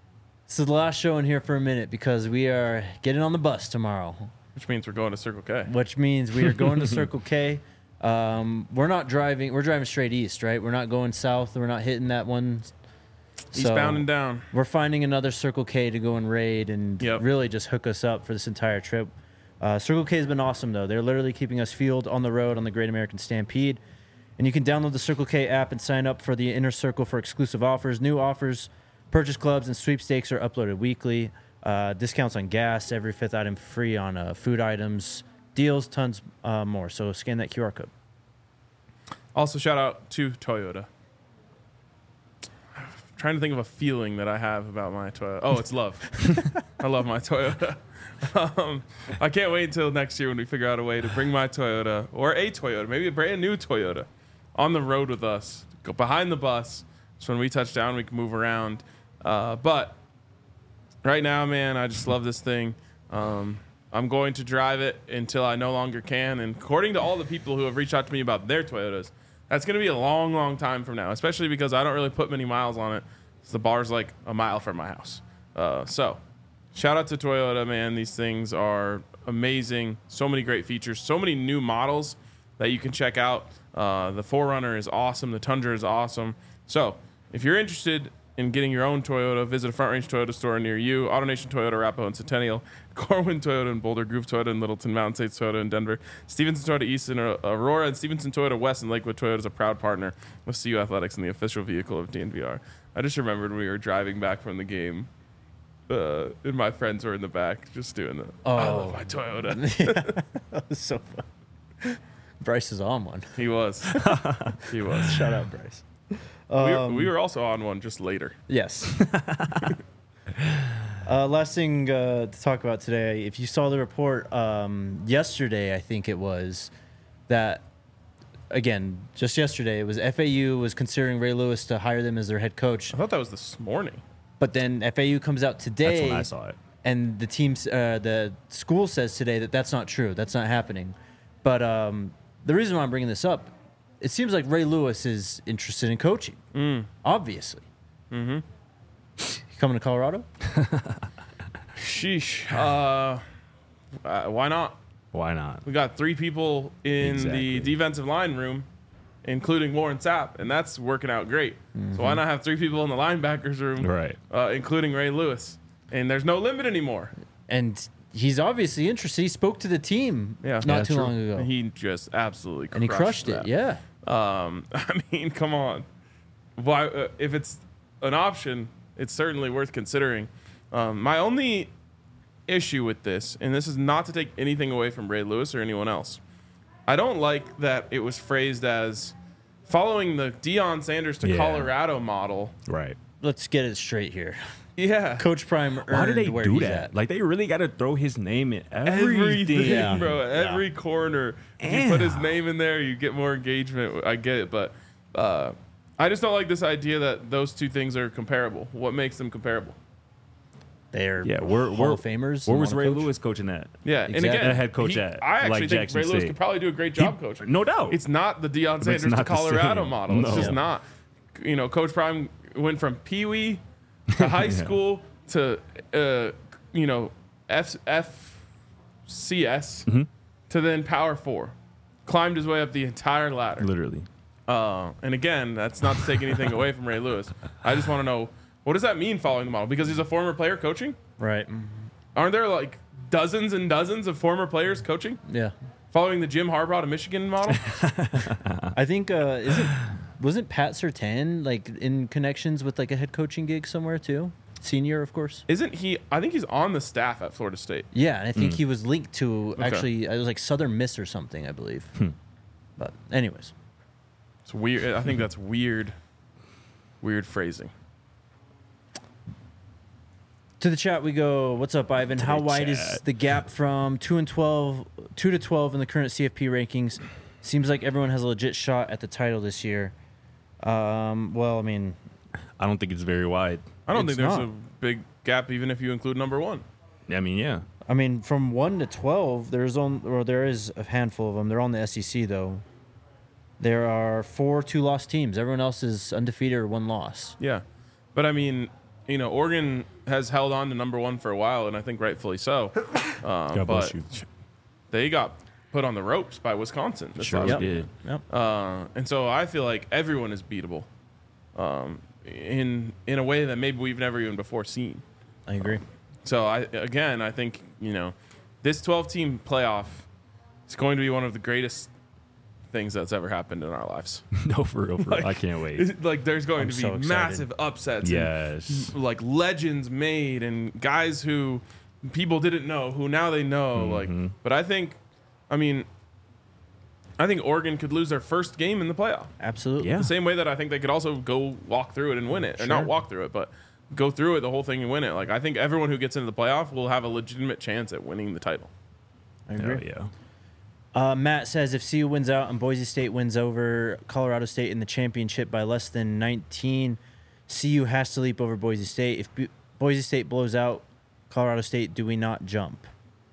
This is the last show in here for a minute because we are getting on the bus tomorrow, Which means we're going to Circle K. which means we are going to Circle K. Um, we're not driving. We're driving straight east, right? We're not going south. We're not hitting that one. Eastbound and down. We're finding another Circle K to go and raid and Yep. really just hook us up for this entire trip. Uh, Circle K has been awesome, though. They're literally keeping us fueled on the road on the Great American Stampede. And you can download the Circle K app and sign up for the Inner Circle for exclusive offers. New offers, purchase clubs, and sweepstakes are uploaded weekly. Uh, discounts on gas, every fifth item free on uh, food items, deals, tons uh, more. So scan that Q R code. Also, shout out to Toyota. I'm trying to think of a feeling that I have about my Toyota. Oh, it's love. I love my Toyota. Um, I can't wait until next year when we figure out a way to bring my Toyota or a Toyota, maybe a brand new Toyota, on the road with us. Go behind the bus. So when we touch down, we can move around. Uh, but right now, man, I just love this thing. Um, I'm going to drive it until I no longer can. And according to all the people who have reached out to me about their Toyotas, that's going to be a long, long time from now, especially because I don't really put many miles on it. So the bar's like a mile from my house. Uh, so shout out to Toyota, man. These things are amazing. So many great features. So many new models that you can check out. Uh, the four runner is awesome. The Tundra is awesome. So if you're interested in getting your own Toyota, visit a Front Range Toyota store near you. AutoNation Toyota, Arapahoe and Centennial. Corwin Toyota in Boulder. Groove Toyota in Littleton. Mountain States Toyota in Denver. Stevenson Toyota East in Aurora. And Stevenson Toyota West in Lakewood. Toyota is a proud partner with C U Athletics and the official vehicle of D N V R. I just remembered when we were driving back from the game. Uh, and my friends were in the back just doing the Oh. I love my Toyota. Yeah, that was so fun. Bryce is on one. He was. He was. Shout out, Bryce. we, were, Um, we were also on one just later. Yes. uh, last thing uh, to talk about today. If you saw the report um, yesterday, I think it was that again just yesterday. It was F A U was considering Ray Lewis to hire them as their head coach, I thought that was this morning. but then F A U comes out That's today, when I saw it. and the teams, uh, the school says today that that's not true. That's not happening. But um, the reason why I'm bringing this up, it seems like Ray Lewis is interested in coaching. Mm. Obviously. Mm-hmm. You coming to Colorado? Sheesh. Uh, uh, why not? Why not? We got three people in Exactly. the defensive line room, including Warren Sapp, and that's working out great. So why not have three people in the linebackers room, Right. uh, including Ray Lewis? And there's no limit anymore. And he's obviously interested. He spoke to the team Yeah. not Yeah, too true. long ago. He just absolutely crushed and he crushed that. it. Yeah. Um, I mean, come on. Why? Uh, if it's an option, it's certainly worth considering. Um, my only issue with this, and this is not to take anything away from Ray Lewis or anyone else, I don't like that it was phrased as following the Deion Sanders to Yeah. Colorado model. Right. Let's get it straight here. Yeah. Coach Prime earned Why do they where do he's that? at. Like, they really got to throw his name in everything. Everything, Yeah. bro. Every corner. If you put his Damn. name in there, you get more engagement. I get it, but uh, I just don't like this idea that those two things are comparable. What makes them comparable? They're Yeah, we're, Hall we're of Famers. Where and was wanna Ray coach. Lewis coaching at? Yeah, and Exactly. again, A head coach he- at, I actually like think Jackson Ray Lewis State. could probably do a great job coaching. No doubt. It's not the Deion it's Sanders to not the Colorado same. model. It's No. just not. You know, Coach Prime went from Pee Wee to high Yeah. school to uh, you know F F C S Mm-hmm. to then Power Four. Climbed his way up the entire ladder. Literally. Uh, and again, that's not to take anything away from Ray Lewis. I just want to know, what does that mean following the model? Because he's a former player coaching? Right. Aren't there like dozens and dozens of former players coaching? Yeah. Following the Jim Harbaugh to Michigan model? I think uh isn't wasn't Pat Surtain like in connections with like a head coaching gig somewhere too? Senior, of course. Isn't he? I think he's on the staff at Florida State. Yeah, and I Hmm. think he was linked to Okay. actually it was like Southern Miss or something, I believe. Hmm. But anyways. It's weird. I think that's weird, weird phrasing. To the chat we go. What's up, Ivan? To How the wide is chat. the gap from two and twelve, two to twelve in the current C F P rankings? Seems like everyone has a legit shot at the title this year. Um, well, I mean, I don't think it's very wide. I don't It's think there's not. a big gap, even if you include number one. I mean, yeah. I mean, from one to twelve, there's on or there is a handful of them. They're on the S E C though. There are four two-loss teams. Everyone else is undefeated or one loss. Yeah, but I mean, you know, Oregon has held on to number one for a while, and I think rightfully so. Uh, God bless but you. they got put on the ropes by Wisconsin. This Sure last Yep. week. did. Yep. Uh, and so I feel like everyone is beatable um, in in a way that maybe we've never even before seen. I agree. So I again, I think you know, this twelve-team playoff is going to be one of the greatest things that's ever happened in our lives. No, for real, for real. I can't wait. Like, there's going I'm to be so excited. massive upsets. Yes. And, like legends made and guys who people didn't know who now they know. Like, but I think, I mean, I think Oregon could lose their first game in the playoff. Absolutely. Yeah. The same way that I think they could also go walk through it and win it, or Sure. not walk through it, but go through it the whole thing and win it. Like, I think everyone who gets into the playoff will have a legitimate chance at winning the title. I Hell agree. yeah. Uh, Matt says if C U wins out and Boise State wins over Colorado State in the championship by less than nineteen, C U has to leap over Boise State. If B- Boise State blows out Colorado State, do we not jump?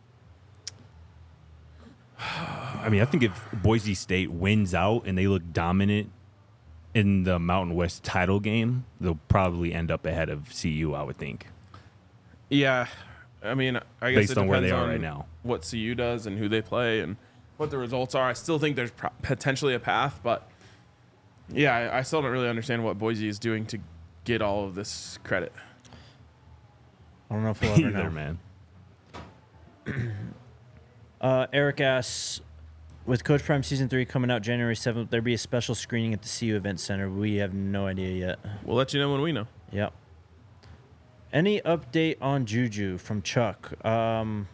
I mean, I think if Boise State wins out and they look dominant in the Mountain West title game, they'll probably end up ahead of C U, I would think. Yeah, I mean, I guess Based it on where depends they are on right now. what C U does and who they play and what the results are. I still think there's pro- potentially a path, but yeah, I, I still don't really understand what Boise is doing to get all of this credit. I don't know if we'll ever Either, know. man. Uh, Eric asks, with Coach Prime Season three coming out January seventh, there be a special screening at the C U Event Center? We have no idea yet. We'll let you know when we know. Yep. Any update on Juju from Chuck? Um,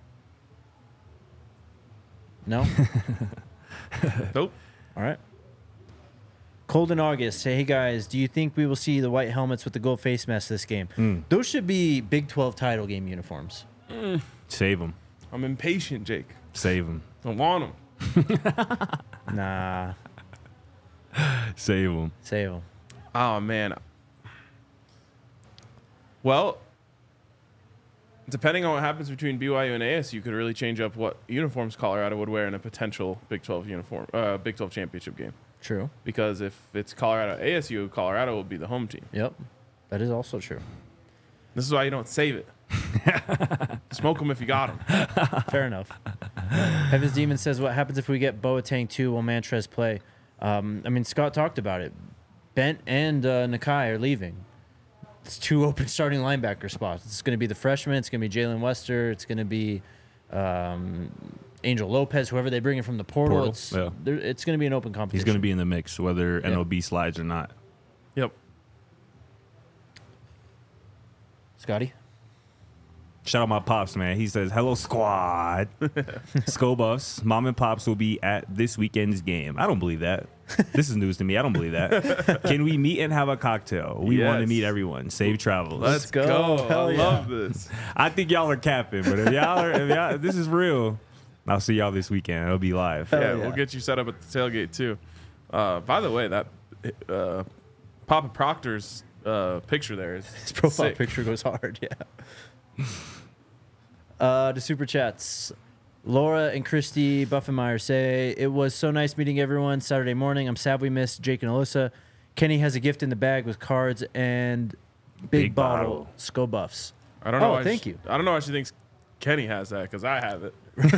no? Nope. All right. Cold in August. Hey guys, do you think we will see the white helmets with the gold face mask this game? Mm. Those should be Big twelve title game uniforms. Save them. I'm impatient, Jake. Save them. I want them. Nah, Save them. save them. Oh, man. Well, depending on what happens between B Y U and A S U, could really change up what uniforms Colorado would wear in a potential Big twelve uniform, uh, Big twelve championship game. True. Because if it's Colorado A S U, Colorado will be the home team. Yep. That is also true. This is why you don't save it. Smoke them if you got them. Fair enough. Heaven's Demon says, what happens if we get Boateng two? Will Mantrez play? Um, I mean, Scott talked about it. Bent and uh, Nakai are leaving. It's two open starting linebacker spots. It's going to be the freshman. It's going to be Jalen Wester. It's going to be um, Angel Lopez, whoever they bring in from the portal. Portal, It's, yeah. there- it's going to be an open competition. He's going to be in the mix, whether Yeah. N O B slides or not. Yep. Scotty? Shout out my pops, man. He says, hello, squad. Skull Buffs, mom and pops will be at this weekend's game. I don't believe that. This is news to me. I don't believe that. Can we meet and have a cocktail? We want to Yes. meet everyone. Safe travels. Let's go. go. Hell I yeah. love this. I think y'all are capping, but if y'all are, if, y'all, if this is real, I'll see y'all this weekend. It'll be live. Yeah, yeah. we'll get you set up at the tailgate, too. Uh, by the way, that uh, Papa Proctor's uh, picture there is His profile sick. picture goes hard, yeah. uh, the super chats. Laura and Christy Buffenmeyer say, it was so nice meeting everyone Saturday morning. I'm sad we missed Jake and Alyssa. Kenny has a gift in the bag with cards and big, Big bottle, bottle. Skull Buffs. I don't know. Oh, why thank she, you. I don't know why she thinks Kenny has that because I have it.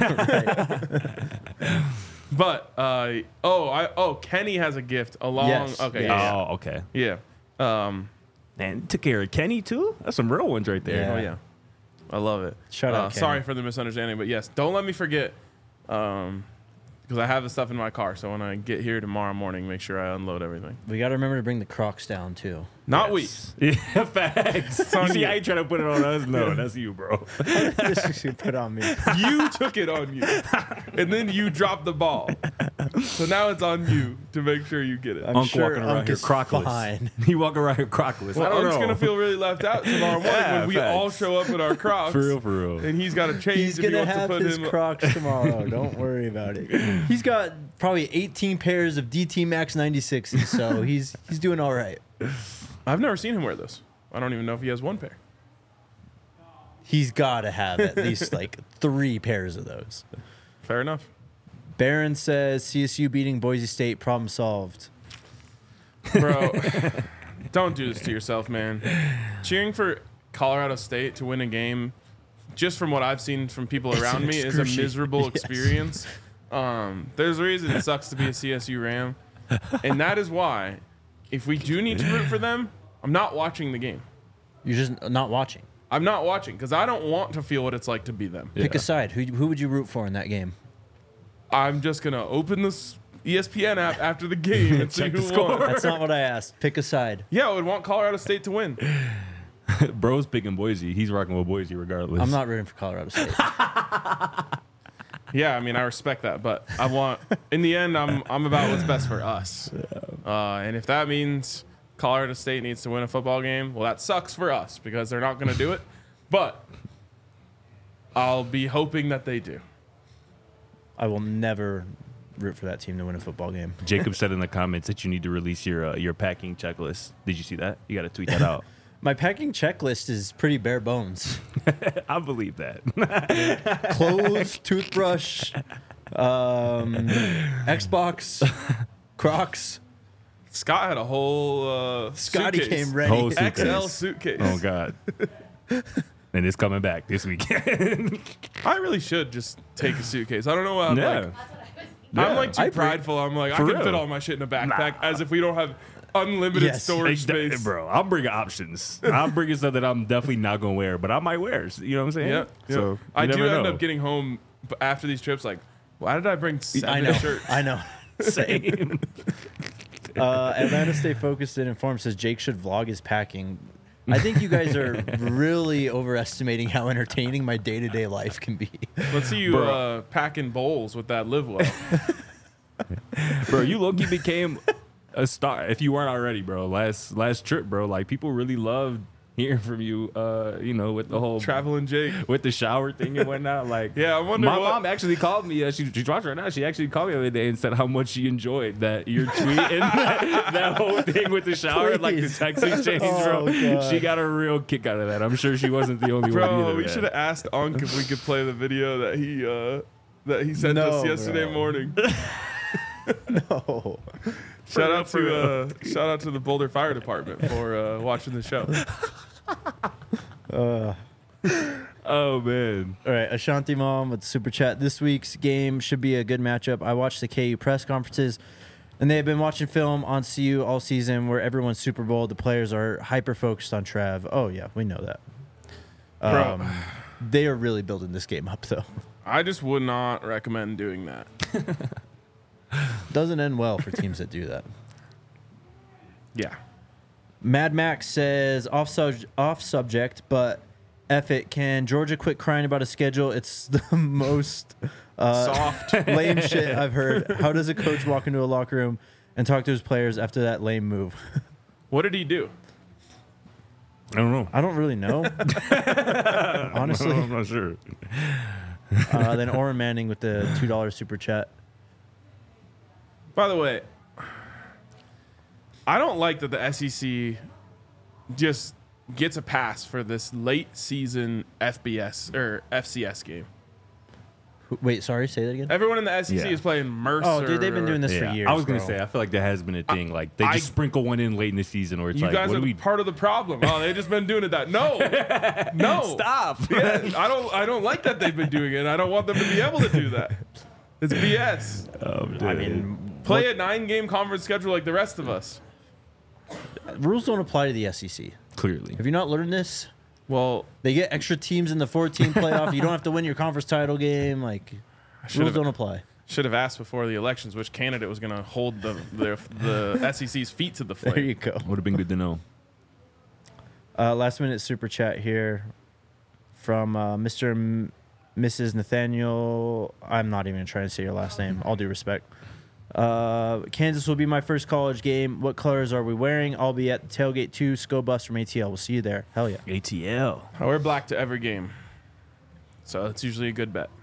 But uh, oh, I oh Kenny has a gift along. Yes. Okay, Yeah. yeah, Oh, okay. yeah. yeah. Um, Man, took care of Kenny, too? That's some real ones right there. Yeah. oh yeah, I love it. Shout out Uh, Kenny. sorry for the misunderstanding, but yes, don't let me forget. Um, because I have the stuff in my car, so when I get here tomorrow morning, make sure I unload everything. We got to remember to bring the Crocs down, too. Not Yes. Yeah, facts. on You see, you. I ain't trying to put it on us. No, that's you, bro. This should put on me. we. You took it on you, and then you dropped the ball. So now it's on you to make sure you get it. I'm Unc sure walking around Unc here is crockless. fine. He walking around here crockless. Well, I don't Unc's know. gonna feel really left out tomorrow morning Yeah, when we facts. all show up in our Crocs. For real, for real. And he's got a change He's if he gonna wants to have put his him. Crocs tomorrow. Don't worry about it. He's got probably eighteen pairs of D T Max ninety-sixes, so he's he's doing all right. I've never seen him wear those. I don't even know if he has one pair. He's got to have at least like three pairs of those. Fair enough. Barron says C S U beating Boise State, problem solved. Bro, Don't do this to yourself, man. Cheering for Colorado State to win a game, just from what I've seen from people It's around an me, is a excruciating- miserable yes. experience. Um, there's a reason it sucks to be a C S U Ram. And that is why, if we do need to root for them, I'm not watching the game. You're just not watching. I'm not watching because I don't want to feel what it's like to be them. Pick Yeah. a side. Who who would you root for in that game? I'm just going to open this E S P N app after the game and see Check the who score. won. That's not what I asked. Pick a side. Yeah, I would want Colorado State to win. Bro's picking Boise. He's rocking with Boise regardless. I'm not rooting for Colorado State. Yeah, I mean, I respect that, but I want, in the end, I'm I'm about what's best for us. Uh, and if that means Colorado State needs to win a football game, well, that sucks for us because they're not going to do it. But I'll be hoping that they do. I will never root for that team to win a football game. Jacob said in the comments that you need to release your uh, your packing checklist. Did you see that? You got to tweet that out. My packing checklist is pretty bare bones. I believe that. Clothes, toothbrush, um, Xbox, Crocs. Scott had a whole uh, Scotty suitcase. came ready. Whole X L suitcase. suitcase. Oh God. And it's coming back this weekend. I really should just take a suitcase. I don't know how. yeah. Like, I'm like too I bring- prideful. I'm like, I For can real. fit all my shit in a backpack as if we don't have unlimited Yes. storage Exactly, space. bro. I'm bringing options. I'm bringing stuff that I'm definitely not gonna wear, but I might wear. You know what I'm saying? Yeah. yeah. So I you do never end know. up getting home b- after these trips. Like, why did I bring seven I know. shirts? I know. Same. Uh, Atlanta Stay Focused and Informed says Jake should vlog his packing. I think you guys are really overestimating how entertaining my day to day life can be. Let's see you Bro. uh, packing bowls with that live well. Bro, you low-key became a star if you weren't already, bro. Last last trip, bro. Like people really loved hearing from you. Uh, you know, with the whole Traveling Jake. with the shower thing and whatnot. Like, Yeah, I wonder My what- mom actually called me. Uh, she, she's watching right now. She actually called me the other day and said how much she enjoyed that your tweet and that, that whole thing with the shower, like the Please. text exchange, Oh, bro. God. She got a real kick out of that. I'm sure she wasn't the only one Bro, either. we man. should have asked Unk if we could play the video that he uh, that he sent No, us yesterday bro. morning. Oh, Shout out For to real. uh, shout out to the Boulder Fire Department for uh, watching the show. uh, Oh man. all right. Ashanti Mom with the super chat. This week's game should be a good matchup. I watched the K U press conferences, and they have been watching film on C U all season where everyone's Super Bowl. The players are hyper focused on Trav. Oh, yeah, we know that. Bro. Um, they are really building this game up, though. I just would not recommend doing that. Doesn't end well for teams that do that. Yeah. Mad Max says off sub- off subject, but F it. Can Georgia quit crying about a schedule? It's the most uh, Soft. lame shit I've heard. How does a coach walk into a locker room and talk to his players after that lame move? What did he do? I don't know. I don't really know. Honestly. I'm not sure. Uh, then Oren Manning with the two dollar super chat. By the way, I don't like that the S E C just gets a pass for this late season F B S or F C S game. Wait, sorry, say that again. Everyone in the S E C Yeah. is playing Mercer. Oh, dude, they've been doing this Yeah. for years. I was gonna bro. say I feel like that has been a thing. Like they I- just sprinkle one in late in the season, where it's You like, guys what are do we part of the problem. Oh, they've just been doing it that. No, no, stop? Yeah, I don't. I don't like that they've been doing it. I don't want them to be able to do that. It's B S. Oh, dude. I mean, Play a nine-game conference schedule like the rest of us. rules don't apply to the S E C. clearly. Have you not learned this? Well, They get extra teams in the four-team playoff. You don't have to win your conference title game. Like, rules should've- don't apply. should have asked before the elections which candidate was going to hold the the, the S E C's feet to the flame. There you go. Would have been good to know. Uh, last minute super chat here from uh, Mister M- Missus Nathaniel. I'm not even trying to say your last name. All due respect. Uh, Kansas will be my first college game. What colors are we wearing? I'll be at the tailgate two. Sco bus from A T L. We'll see you there. Hell yeah. A T L. I wear black to every game, so it's usually a good bet.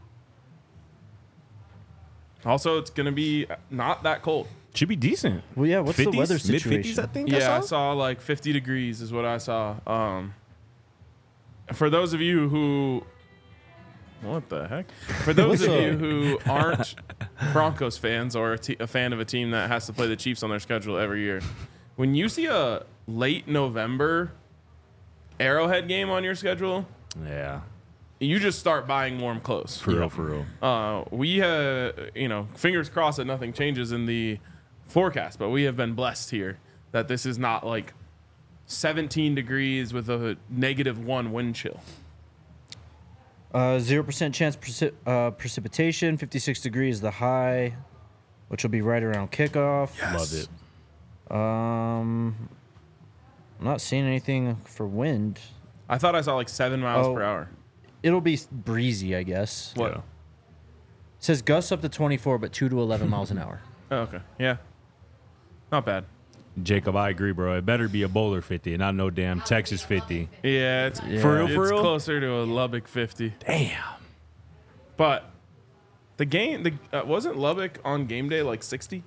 Also, it's going to be not that cold. Should be decent. Well, yeah. What's the weather Mid situation? fifties, I think. I Yeah, I saw. saw like fifty degrees is what I saw. Um, for those of you who, what the heck? For those of What's you up? who aren't Broncos fans or a, te- a fan of a team that has to play the Chiefs on their schedule every year, when you see a late November Arrowhead game on your schedule, Yeah, you just start buying warm clothes. for real, for real. Uh, we, uh, you know, fingers crossed that nothing changes in the forecast, but we have been blessed here that this is not like seventeen degrees with a negative one wind chill. Uh, zero percent chance preci- uh, precipitation, fifty-six degrees the high, which will be right around kickoff. Love it. Um, I'm not seeing anything for wind. I thought I saw like seven miles Oh. per hour. It'll be breezy, I guess. What? Yeah. It says gusts up to twenty-four, but two to eleven miles an hour. Oh, okay. Yeah. Not bad. Jacob, I agree, bro. It better be a Boulder fifty, and not no damn Texas fifty. Yeah, it's Yeah. For real, it's for real? closer to a Lubbock fifty. Damn. But the game, the uh, wasn't Lubbock on game day like sixty?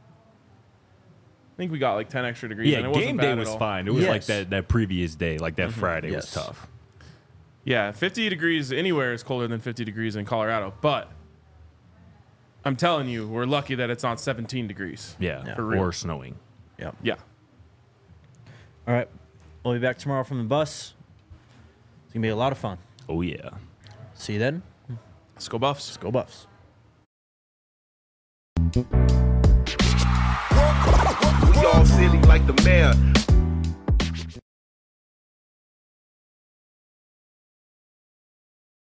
I think we got like ten extra degrees. Yeah, and it wasn't game bad day at was all. fine. It was like Yes. that, that previous day, like that Friday Yes. was tough. Yeah, fifty degrees anywhere is colder than fifty degrees in Colorado. But I'm telling you, we're lucky that it's not seventeen degrees. Yeah, For real. or snowing. Yeah. Yeah. All right. We'll be back tomorrow from the bus. It's going to be a lot of fun. Oh, yeah. See you then. Let's go Buffs. Go Buffs. We all silly like the mayor.